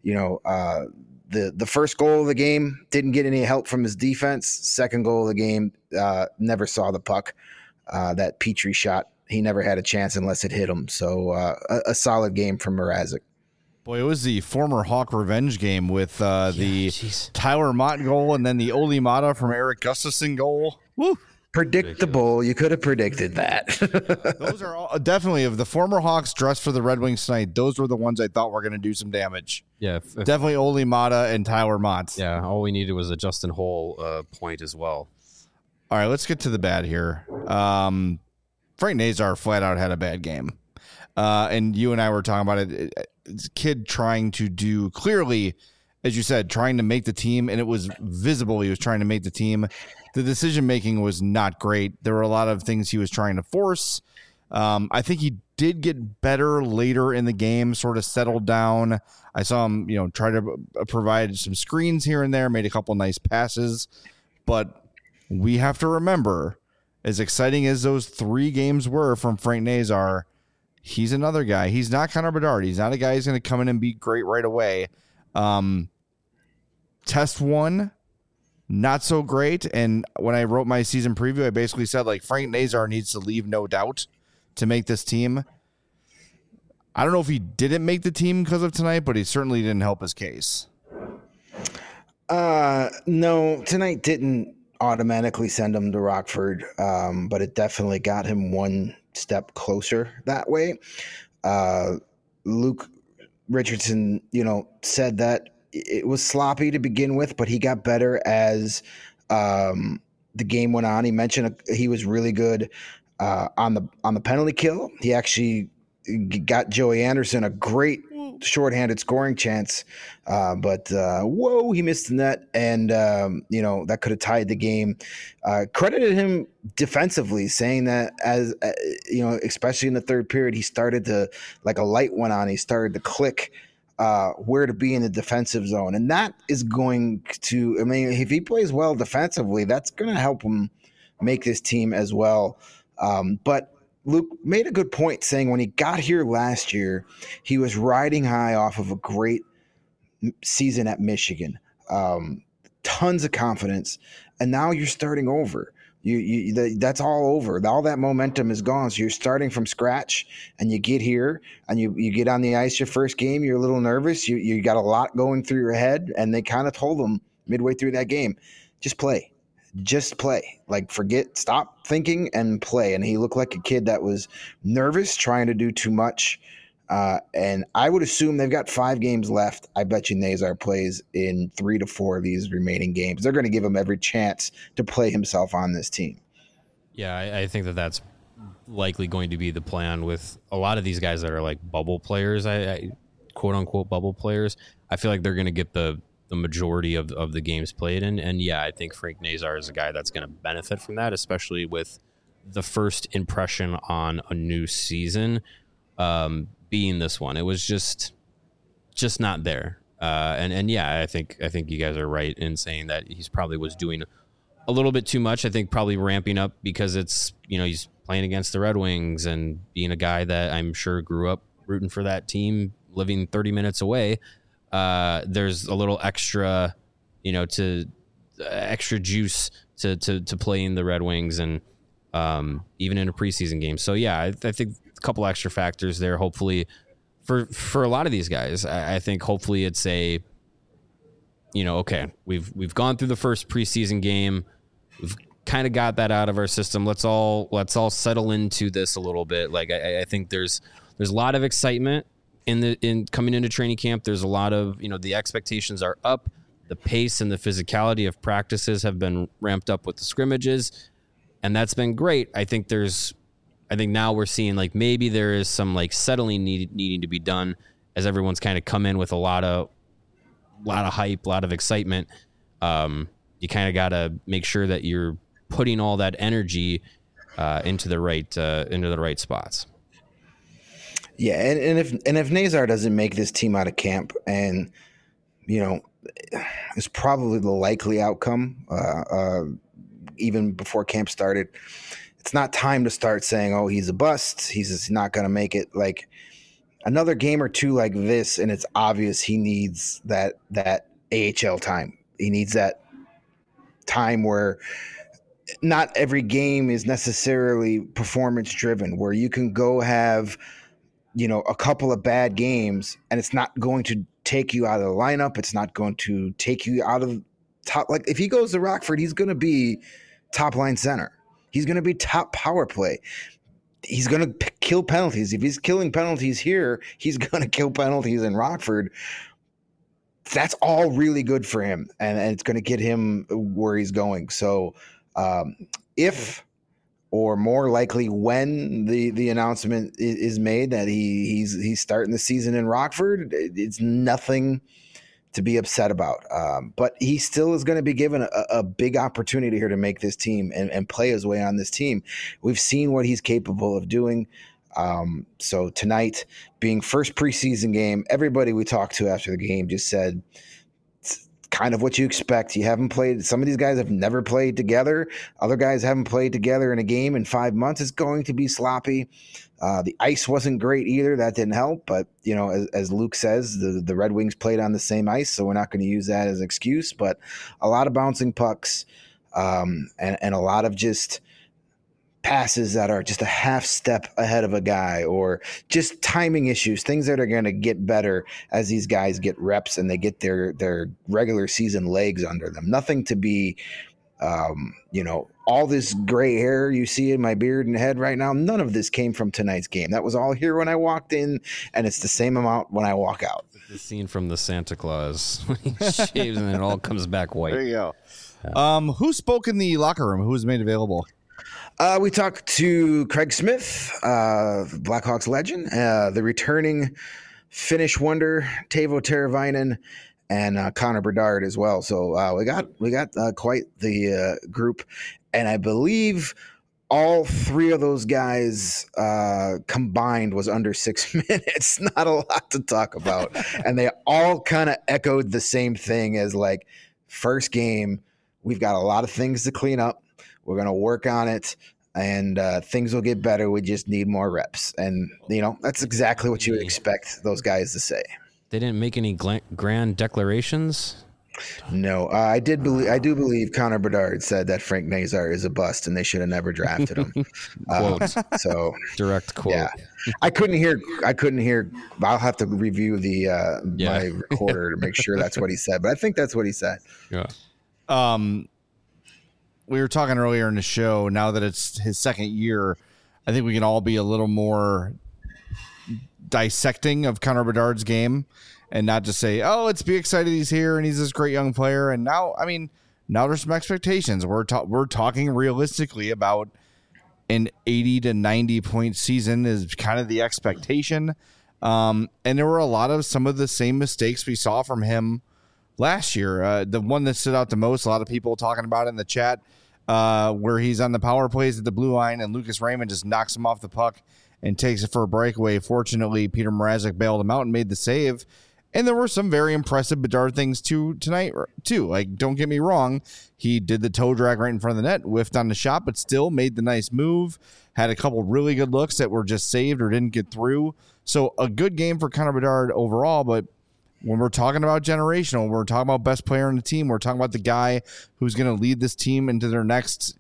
the first goal of the game didn't get any help from his defense. Second goal of the game, never saw the puck. That Petrie shot, he never had a chance unless it hit him. So a solid game from Mrazek. Boy, it was the former Hawk revenge game with the Tyler Mott goal and then the Oli Mata from Eric Gustafson goal. Woo! Predictable. You could have predicted that. Those are all definitely, of the former Hawks dressed for the Red Wings tonight, those were the ones I thought were going to do some damage. Yeah. Definitely Oli Mata and Tyler Mott. Yeah, all we needed was a Justin Holl point as well. All right, let's get to the bad here. Frank Nazar flat out had a bad game. And you and I were talking about it. It's a kid trying to do, clearly, as you said, trying to make the team, and it was visible he was trying to make the team. The decision-making was not great. There were a lot of things he was trying to force. I think he did get better later in the game, sort of settled down. I saw him, try to provide some screens here and there, made a couple nice passes. But we have to remember, as exciting as those 3 games were from Frank Nazar, he's another guy. He's not Connor Bedard. He's not a guy who's going to come in and be great right away. Test 1, not so great. And when I wrote my season preview, I basically said, Frank Nazar needs to leave no doubt to make this team. I don't know if he didn't make the team because of tonight, but he certainly didn't help his case. No, tonight didn't automatically send him to Rockford, but it definitely got him one step closer that way. Luke Richardson, said that it was sloppy to begin with, but he got better as the game went on. He mentioned he was really good on the penalty kill. He actually got Joey Anderson a great shorthanded scoring chance, but he missed the net, and that could have tied the game. Credited him defensively, saying that as especially in the third period, he started to, like a light went on, he started to click where to be in the defensive zone, and that is going to, if he plays well defensively, that's going to help him make this team as well. But Luke made a good point, saying when he got here last year, he was riding high off of a great season at Michigan, tons of confidence, and now you're starting over. That's all over. All that momentum is gone. So you're starting from scratch, and you get here, and you get on the ice your first game. You're a little nervous. You got a lot going through your head, and they kind of told him midway through that game, just play. Just play. Like, stop thinking and play. And he looked like a kid that was nervous, trying to do too much. And I would assume they've got 5 games left. I bet you Nazar plays in 3 to 4 of these remaining games. They're going to give him every chance to play himself on this team. Yeah, I think that's likely going to be the plan with a lot of these guys that are like bubble players, I quote unquote bubble players. I feel like they're going to get the majority of the games played. And yeah, I think Frank Nazar is a guy that's going to benefit from that, especially with the first impression on a new season being this one. It was just not there. And yeah, I think you guys are right in saying that he's probably was doing a little bit too much. I think probably ramping up because it's, he's playing against the Red Wings and being a guy that I'm sure grew up rooting for that team, living 30 minutes away. There's a little extra, extra juice to playing the Red Wings and even in a preseason game. So yeah, I think a couple extra factors there. Hopefully, for a lot of these guys, I think hopefully it's a, okay, we've gone through the first preseason game, we've kind of got that out of our system. Let's all settle into this a little bit. Like I think there's a lot of excitement in coming into training camp. There's a lot of, the expectations are up. The pace and the physicality of practices have been ramped up with the scrimmages, and that's been great. I think now we're seeing like maybe there is some like settling needing to be done as everyone's kind of come in with a lot of hype, a lot of excitement. You kind of got to make sure that you're putting all that energy into the right spots. Yeah, and if Nazar doesn't make this team out of camp, and it's probably the likely outcome, even before camp started, it's not time to start saying, "Oh, he's a bust. He's not going to make it." Like another game or two like this, and it's obvious he needs that AHL time. He needs that time where not every game is necessarily performance driven, where you can go have a couple of bad games and it's not going to take you out of the lineup. It's not going to take you out of top. Like if he goes to Rockford, he's going to be top line center. He's going to be top power play. He's going to kill penalties. If he's killing penalties here, he's going to kill penalties in Rockford. That's all really good for him. And it's going to get him where he's going. So if, or more likely when the announcement is made that he's starting the season in Rockford, it's nothing to be upset about. But he still is going to be given a big opportunity here to make this team and play his way on this team. We've seen what he's capable of doing. So tonight being first preseason game, everybody we talked to after the game just said, kind of what you expect. You haven't played. Some of these guys have never played together. Other guys haven't played together in a game in 5 months. It's going to be sloppy. The ice wasn't great either. That didn't help. But, as Luke says, the Red Wings played on the same ice, so we're not going to use that as an excuse. But a lot of bouncing pucks and a lot of just passes that are just a half step ahead of a guy, or just timing issues, things that are going to get better as these guys get reps and they get their regular season legs under them. Nothing to be, all this gray hair you see in my beard and head right now, none of this came from tonight's game. That was all here when I walked in, and it's the same amount when I walk out. The scene from the Santa Claus when he shaves and it all comes back white. There you go. Yeah. Who spoke in the locker room? Who was made available? We talked to Craig Smith, Blackhawks legend, the returning Finnish wonder Teuvo Teravainen, and Connor Bedard as well. So we got quite the group, and I believe all 3 of those guys combined was under 6 minutes. Not a lot to talk about, and they all kind of echoed the same thing as like first game. We've got a lot of things to clean up. We're going to work on it, and things will get better. We just need more reps. And, that's exactly what you would expect those guys to say. They didn't make any grand declarations? No, I do believe Connor Bedard said that Frank Nazar is a bust and they should have never drafted him. Quote. So Direct quote. yeah, I couldn't hear. I'll have to review the my recorder to make sure that's what he said, but I think that's what he said. Yeah. We were talking earlier in the show. Now that it's his second year, I think we can all be a little more dissecting of Connor Bedard's game and not just say, oh, let's be excited he's here and he's this great young player. And now, I mean, now there's some expectations. We're talking realistically about an 80 to 90 point season is kind of the expectation. And there were a lot of some of the same mistakes we saw from him last year. The one that stood out the most, a lot of people talking about it in the chat, where he's on the power plays at the blue line and Lucas Raymond just knocks him off the puck and takes it for a breakaway. Fortunately, Peter Mrazek bailed him out and made the save. And there were some very impressive Bedard things tonight, too. Like, don't get me wrong. He did the toe drag right in front of the net, whiffed on the shot, but still made the nice move. Had a couple really good looks that were just saved or didn't get through. So a good game for Connor Bedard overall. But when we're talking about generational, we're talking about best player on the team. We're talking about the guy who's going to lead this team into their next,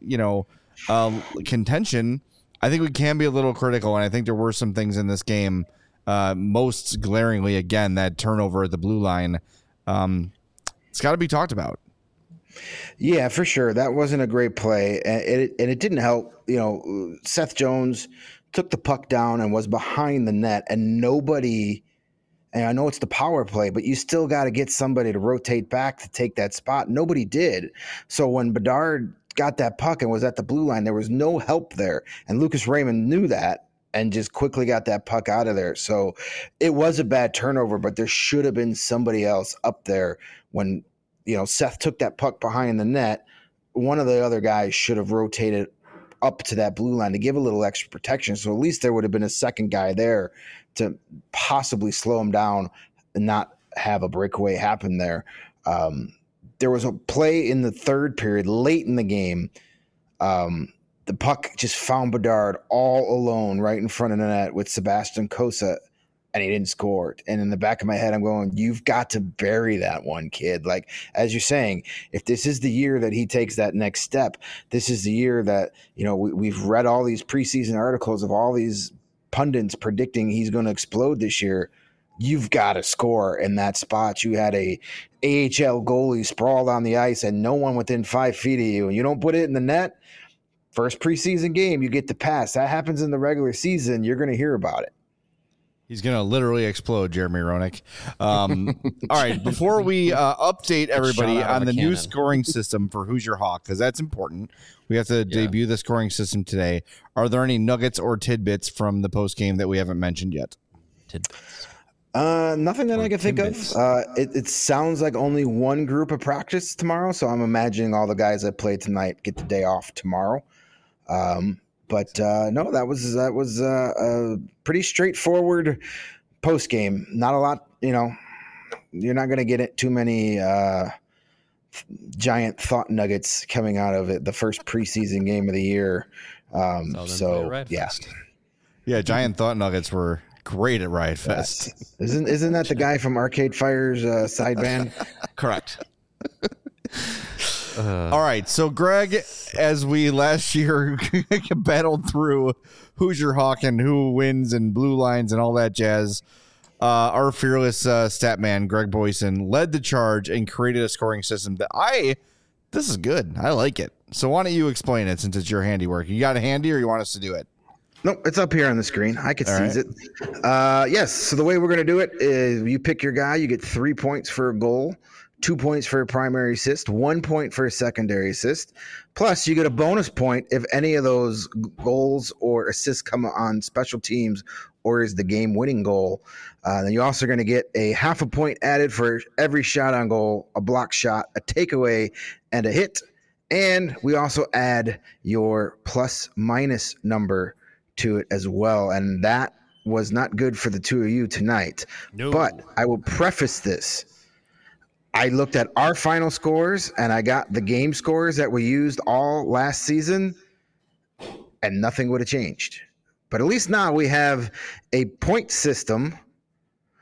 contention. I think we can be a little critical, and I think there were some things in this game. Most glaringly, again, that turnover at the blue line. It's got to be talked about. Yeah, for sure. That wasn't a great play, and it didn't help. Seth Jones took the puck down and was behind the net, and nobody. And I know it's the power play, but you still got to get somebody to rotate back to take that spot. Nobody did. So when Bedard got that puck and was at the blue line, there was no help there, and Lucas Raymond knew that and just quickly got that puck out of there. So it was a bad turnover, but there should have been somebody else up there when, Seth took that puck behind the net. One of the other guys should have rotated up to that blue line to give a little extra protection. So at least there would have been a second guy there to possibly slow him down and not have a breakaway happen there. There was a play in the third period late in the game. The puck just found Bedard all alone right in front of the net with Sebastian Cossa, and he didn't score. And in the back of my head, I'm going, you've got to bury that one, kid. Like, as you're saying, if this is the year that he takes that next step, this is the year that, we've read all these preseason articles of all these pundits predicting he's going to explode this year. You've got to score in that spot. You had a AHL goalie sprawled on the ice and no one within 5 feet of you, and you don't put it in the net. First preseason game, you get the pass. That happens in the regular season. You're going to hear about it. He's going to literally explode, Jeremy Roenick. All right, before we update everybody on the new scoring system for Who's Your Hawk, because that's important. We have to debut the scoring system today. Are there any nuggets or tidbits from the postgame that we haven't mentioned yet? Tidbits. Nothing that I can think of. It sounds like only one group of practice tomorrow, so I'm imagining all the guys that played tonight get the day off tomorrow. But no, that was a pretty straightforward post game. Not a lot, you're not going to get too many giant thought nuggets coming out of it. The first preseason game of the year. Yeah, giant thought nuggets were great at Riot Fest. Isn't that the guy from Arcade Fire's side band? Correct. All right, so Greg, as we last year battled through Who's Your Hawk and who wins and blue lines and all that jazz, our fearless stat man, Greg Boyson, led the charge and created a scoring system that this is good. I like it. So why don't you explain it since it's your handiwork? You got it handy or you want us to do it? Nope, it's up here on the screen. I could seize it. Yes, so the way we're going to do it is you pick your guy, you get 3 points for a goal, 2 points for a primary assist, 1 point for a secondary assist. Plus, you get a bonus point if any of those goals or assists come on special teams or is the game-winning goal. Then you're also going to get a half a point added for every shot on goal, a block shot, a takeaway, and a hit. And we also add your plus-minus number to it as well. And that was not good for the two of you tonight. No. But I will preface this. I looked at our final scores and I got the game scores that we used all last season and nothing would have changed. But at least now we have a point system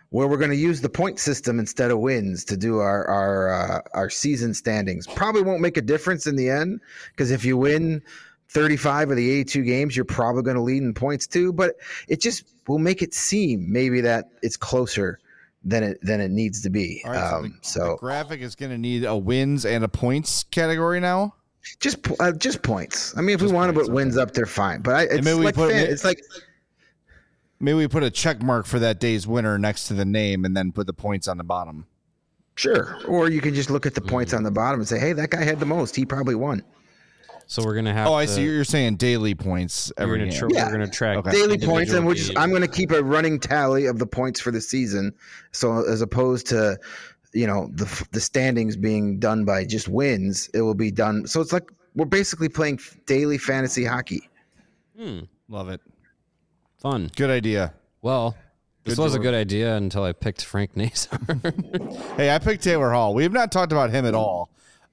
where we're going to use the point system instead of wins to do our season standings. Probably won't make a difference in the end, because if you win 35 of the 82 games, you're probably going to lead in points too. But it just will make it seem maybe that it's closer than it needs to be. All right, the graphic is going to need a wins and a points category now. Just points. I mean, if we want to put wins up, they're fine. But it's like maybe we put a check mark for that day's winner next to the name, and then put the points on the bottom. Sure. Or you can just look at the points on the bottom and say, hey, that guy had the most. He probably won. So we're gonna have. Oh, I see. You're saying daily points every game. We're gonna track daily points, and I'm gonna keep a running tally of the points for the season. So as opposed to, the standings being done by just wins, it will be done. So it's like we're basically playing daily fantasy hockey. Love it. Fun. Good idea. Well, this was a good idea until I picked Frank Nazar. Hey, I picked Taylor Hall. We have not talked about him at all.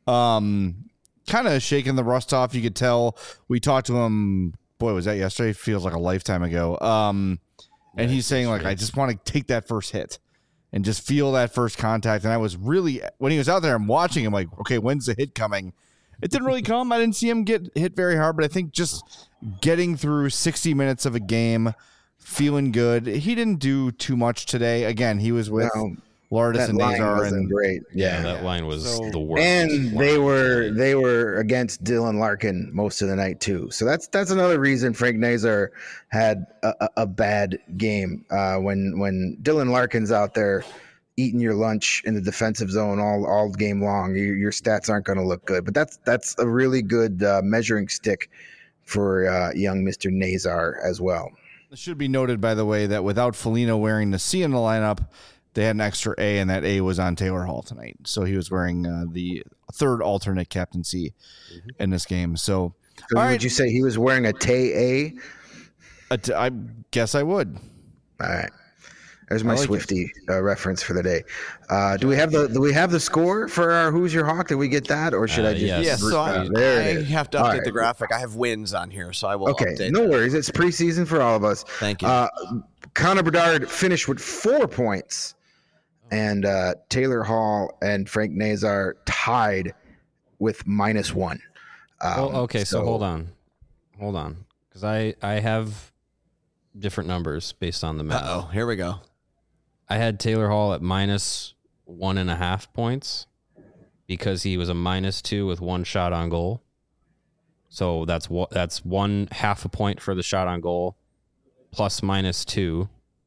Kind of shaking the rust off. You could tell. We talked to him. Boy, was that yesterday? Feels like a lifetime ago. And he's saying, like, I just want to take that first hit and just feel that first contact. And I was really, when he was out there, I'm watching him like, okay, when's the hit coming? It didn't really come. I didn't see him get hit very hard, but I think just getting through 60 minutes of a game, feeling good. He didn't do too much today. Again, he was with Lourdes and Nazar, and great. Yeah, that line was the worst. And they were against Dylan Larkin most of the night too. So that's another reason Frank Nazar had a bad game. When Dylan Larkin's out there eating your lunch in the defensive zone all game long, your stats aren't going to look good. But that's a really good measuring stick for young Mr. Nazar as well. It should be noted, by the way, that without Foligno wearing the C in the lineup, they had an extra A, and that A was on Taylor Hall tonight. So he was wearing the third alternate captaincy in this game. So would you say he was wearing a Tay A? I guess I would. All right. There's my Swifty reference for the day. Do we have the score for our Who's Your Hawk? Did we get that, or should I just? Yes. So I have to update the graphic. I have wins on here, so I will. Okay, update. No worries. It's preseason for all of us. Thank you. Connor Bedard finished with 4 points, and Taylor Hall and Frank Nazar tied with -1. Okay, so hold on, because I have different numbers based on the math. Oh, here we go. I had Taylor Hall at -1.5 points because he was a -2 with 1 shot on goal. So that's 1/2 a point for the shot on goal, plus -2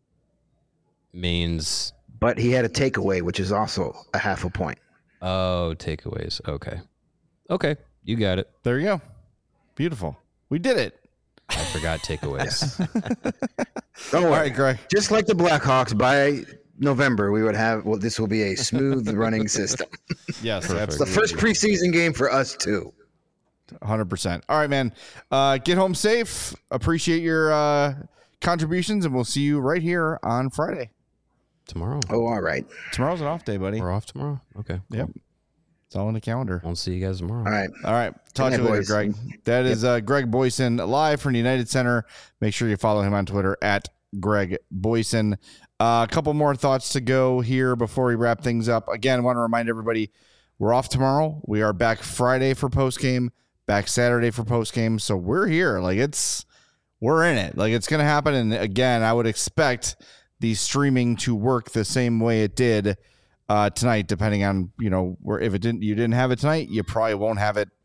means. But he had a takeaway, which is also a 1/2 a point. Oh, takeaways. Okay, you got it. There you go. Beautiful. We did it. I forgot takeaways. Don't worry, All right, Greg. Just like the Blackhawks, by November we would have. Well, this will be a smooth running system. Yes, Perfect. The first preseason game for us too. 100%. All right, man. Get home safe. Appreciate your contributions, and we'll see you right here on Friday. Tomorrow. Oh, all right. Tomorrow's an off day, buddy. We're off tomorrow. Okay. Cool. Yep. It's all in the calendar. Won't see you guys tomorrow. All right. Talk to you later, boys. Greg. That is Greg Boyson live from the United Center. Make sure you follow him on Twitter at Greg Boyson. A couple more thoughts to go here before we wrap things up. Again, I want to remind everybody we're off tomorrow. We are back Friday for postgame, back Saturday for postgame. So we're here. We're in it. It's going to happen. And again, I would expect the streaming to work the same way it did tonight, depending on, where, if you didn't have it tonight, you probably won't have it,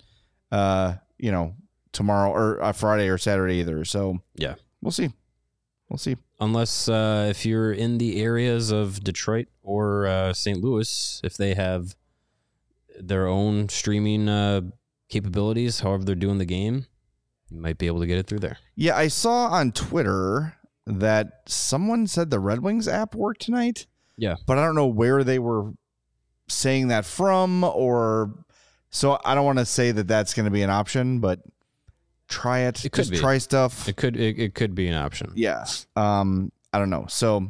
tomorrow or Friday or Saturday either. So Yeah. we'll see. Unless if you're in the areas of Detroit or St. Louis, if they have their own streaming capabilities, however they're doing the game, you might be able to get it through there. Yeah. I saw on Twitter that someone said the Red Wings app worked tonight. Yeah. But I don't know where they were saying that from, so I don't want to say that that's going to be an option, but try it. It could Just be. try stuff. It could be an option. Yeah. I don't know. So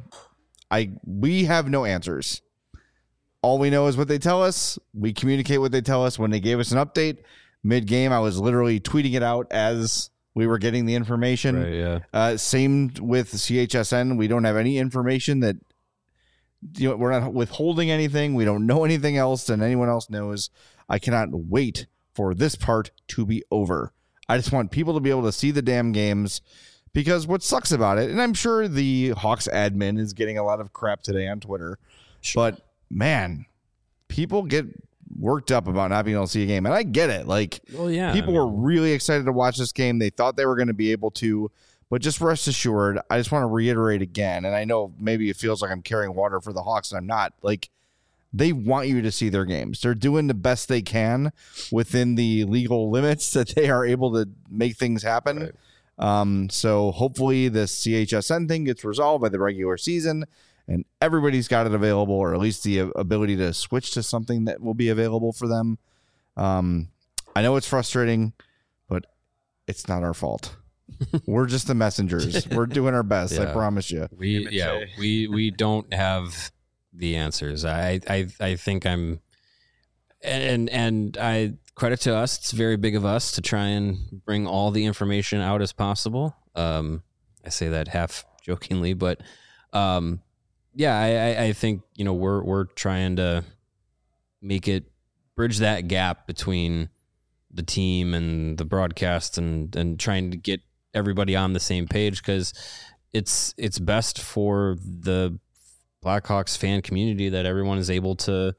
we have no answers. All we know is what they tell us. We communicate what they tell us. When they gave us an update mid-game, I was literally tweeting it out as we were getting the information. Right, yeah. Same with CHSN. We don't have any information that we're not withholding anything. We don't know anything else than anyone else knows. I cannot wait for this part to be over. I just want people to be able to see the damn games, because what sucks about it, and I'm sure the Hawks admin is getting a lot of crap today on Twitter, but man, people get worked up about not being able to see a game, and I get it. Like, people were really excited to watch this game. They thought they were going to be able to, but just rest assured, I just want to reiterate again, and I know maybe it feels like I'm carrying water for the Hawks, and I'm not. Like, they want you to see their games. They're doing the best they can within the legal limits that they are able to make things happen. Right. So hopefully this CHSN thing gets resolved by the regular season and everybody's got it available, or at least the ability to switch to something that will be available for them. I know it's frustrating, but it's not our fault. We're just the messengers. We're doing our best. I promise you. We don't have the answers. I think I'm, and I credit to us. It's very big of us to try and bring all the information out as possible. I say that half jokingly, but I think, we're trying to bridge that gap between the team and the broadcast and trying to get everybody on the same page, because it's best for the Blackhawks fan community that everyone is able to,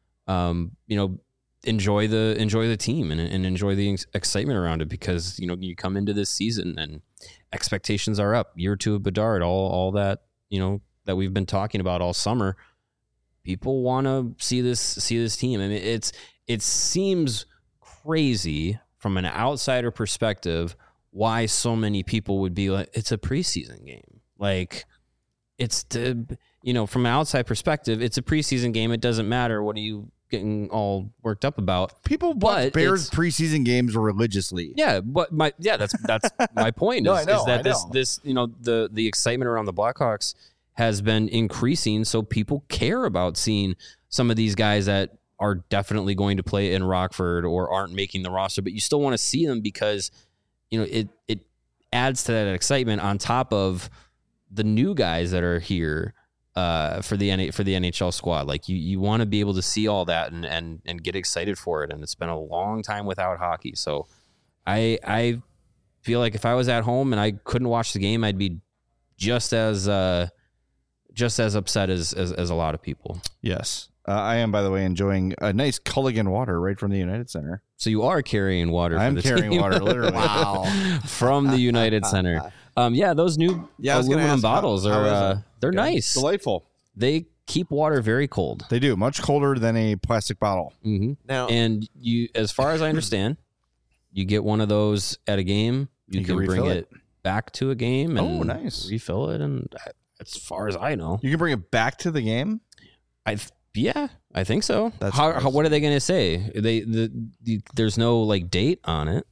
enjoy the team and enjoy the excitement around it, because, you come into this season and expectations are up. Year two of Bedard, all that, that we've been talking about all summer. People want to see this team. I mean, it seems crazy from an outsider perspective why so many people would be like, it's a preseason game. Like, it's from an outside perspective, it's a preseason game. It doesn't matter. What are you getting all worked up about? People watch Bears preseason games religiously. Yeah, but that's my point. No, is that this the excitement around the Blackhawks has been increasing, so people care about seeing some of these guys that are definitely going to play in Rockford or aren't making the roster, but you still want to see them because it adds to that excitement on top of the new guys that are here for the NHL squad. Like, you want to be able to see all that and get excited for it. And it's been a long time without hockey, so I feel like if I was at home and I couldn't watch the game, I'd be just as upset as a lot of people. Yes. I am, by the way, enjoying a nice Culligan water right from the United Center. So you are carrying water. I'm carrying water, literally. Wow. From the United Center. Those new aluminum bottles are they're nice. Delightful. They keep water very cold. They do. Much colder than a plastic bottle. Mm-hmm. Now, and you, as far as I understand, you get one of those at a game. You can bring it back to a game and refill it. And as far as I know, you can bring it back to the game. I think so. What are they going to say? There's no date on it.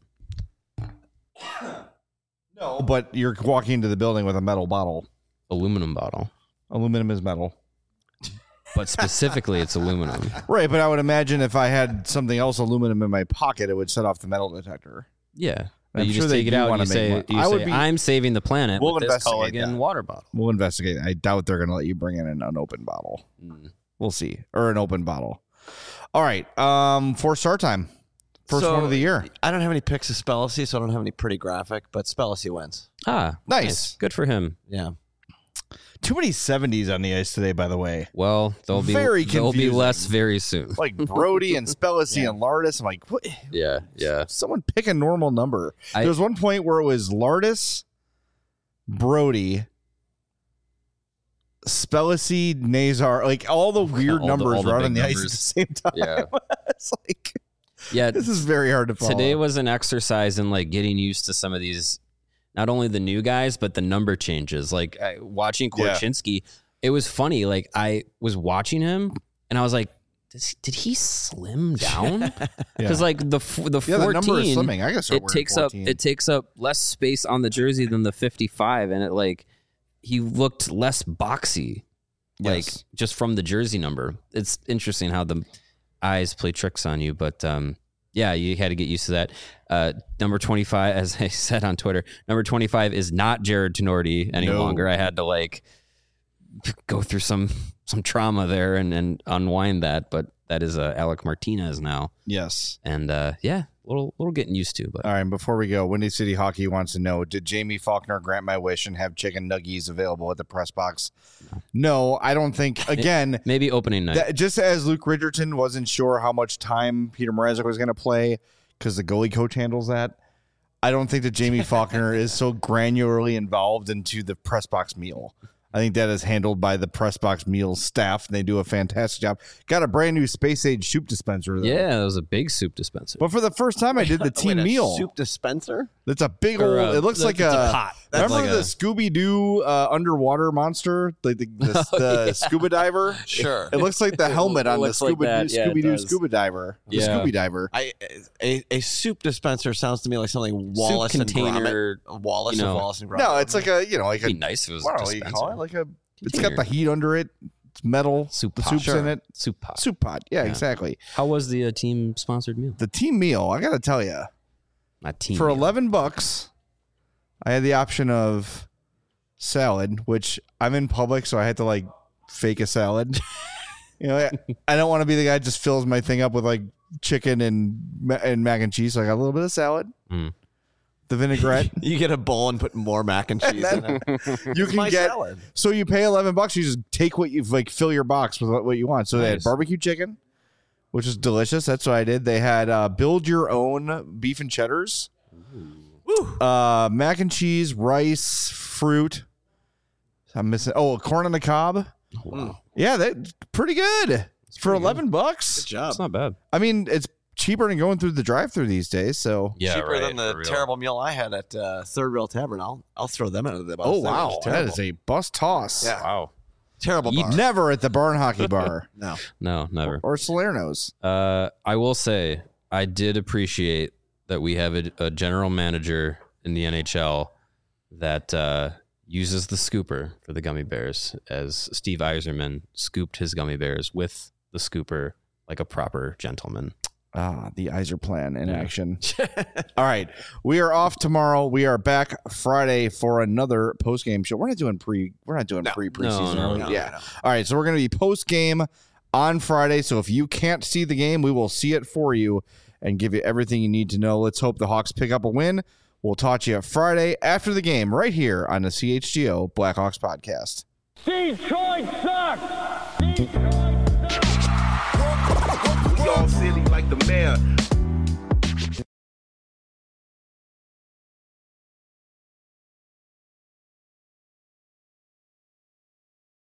No, but you're walking into the building with a metal bottle. Aluminum bottle. Aluminum is metal. But specifically, it's aluminum. Right, but I would imagine if I had something else aluminum in my pocket, it would set off the metal detector. Yeah. You just take it out and you say, I'm saving the planet with this Culligan water bottle. We'll investigate. I doubt they're going to let you bring in an unopened bottle. We'll see. Or an open bottle. All right. For start time. First one of the year. I don't have any picks of Spellacy, so I don't have any pretty graphic, but Spellacy wins. Nice. Good for him. Yeah. Too many 70s on the ice today, by the way. Well, there'll be less very soon. Like Brody and Spellacy and Lardis. I'm like, what? Yeah. Someone pick a normal number. There was one point where it was Lardis, Brody, Spellacy, Nazar, like all the weird numbers were out on the ice at the same time. Yeah. It's like, this is very hard to follow. Today was an exercise in getting used to some of these, not only the new guys, but the number changes. Watching Korchinski, it was funny. I was watching him and I was like, did he slim down? Because the 14, the number is slimming. I guess it takes up less space on the jersey than the 55, and it he looked less boxy, just from the jersey number. It's interesting how the eyes play tricks on you, but you had to get used to that. Number 25, as I said on Twitter, number 25 is not Jared Tenorti any longer. I had to go through some trauma there and unwind that. But that is Alec Martinez now, Yes. and yeah, little getting used to. But All right, before we go, Windy City Hockey wants to know, did Jamie Faulkner grant my wish and have chicken nuggies available at the press box? No, I don't think. Again, maybe opening night. just as Luke Richardson wasn't sure how much time Peter Mrazek was going to play because the goalie coach handles that, I don't think that Jamie Faulkner is so granularly involved into the press box meal. I think that is handled by the press box meal staff, and they do a fantastic job. Got a brand new space age soup dispenser, though. Yeah, that was a big soup dispenser. But for the first time, I did the team meal. Soup dispenser? It's a big Or, old. It looks like it's a pot. Remember Like the a- Scooby Doo underwater monster, like the scuba diver? Sure. It looks like the helmet on the looks like that. Yeah, it Scooby Doo does. scuba diver. The Yeah. Scooby diver. A soup dispenser sounds to me like something Wallace soup and container. Gromit. Wallace you know. and Wallace and Gromit. No, it's like a like It'd a be nice if it was I a don't know what you dispenser. call it, like a. It's Container. got the heat under it. It's metal. Soup the pot. soup's Sure. in it. Soup pot. Soup pot. Yeah, Yeah. exactly. How was the team sponsored meal? The team meal. I got to tell you, Not team for meal. $11, I had the option of salad, which I'm in public, so I had to like fake a salad. I don't want to be the guy that just fills my thing up with like chicken and mac and cheese. So I got a little bit of salad, the vinaigrette. You get a bowl and put more mac and cheese in it. You can my get salad. so you pay $11. You just take what you like, fill your box with what you want. So they had Nice. barbecue chicken, which is delicious. That's what I did. They had build your own beef and cheddars, mac and cheese, rice, fruit. I'm missing. Oh, corn on the cob. Wow. Yeah, that's pretty good for $11. Good job. That's not bad. I mean, it's cheaper than going through the drive-through these days. So, Yeah, Cheaper right, than the for real. terrible meal I had at Third Rail Tavern. I'll throw them into the bus. oh That wow, was that terrible. is a bus toss. Yeah. Wow. terrible bar. Never at the barn hockey bar No. No, never. or Salerno's. I will say I did appreciate that we have a general manager in the NHL that uses the scooper for the gummy bears, as Steve Yzerman scooped his gummy bears with the scooper like a proper gentleman. Ah, the Iser plan in Yeah. action. All right, we are off tomorrow. We are back Friday for another post game show. We're not doing preseason. No, are we? no, yeah. All right, so we're going to be post game on Friday. So if you can't see the game, we will see it for you and give you everything you need to know. Let's hope the Hawks pick up a win. We'll talk to you Friday after the game right here on the CHGO Blackhawks podcast. Detroit sucks! Detroit sucks! We all silly like the mayor.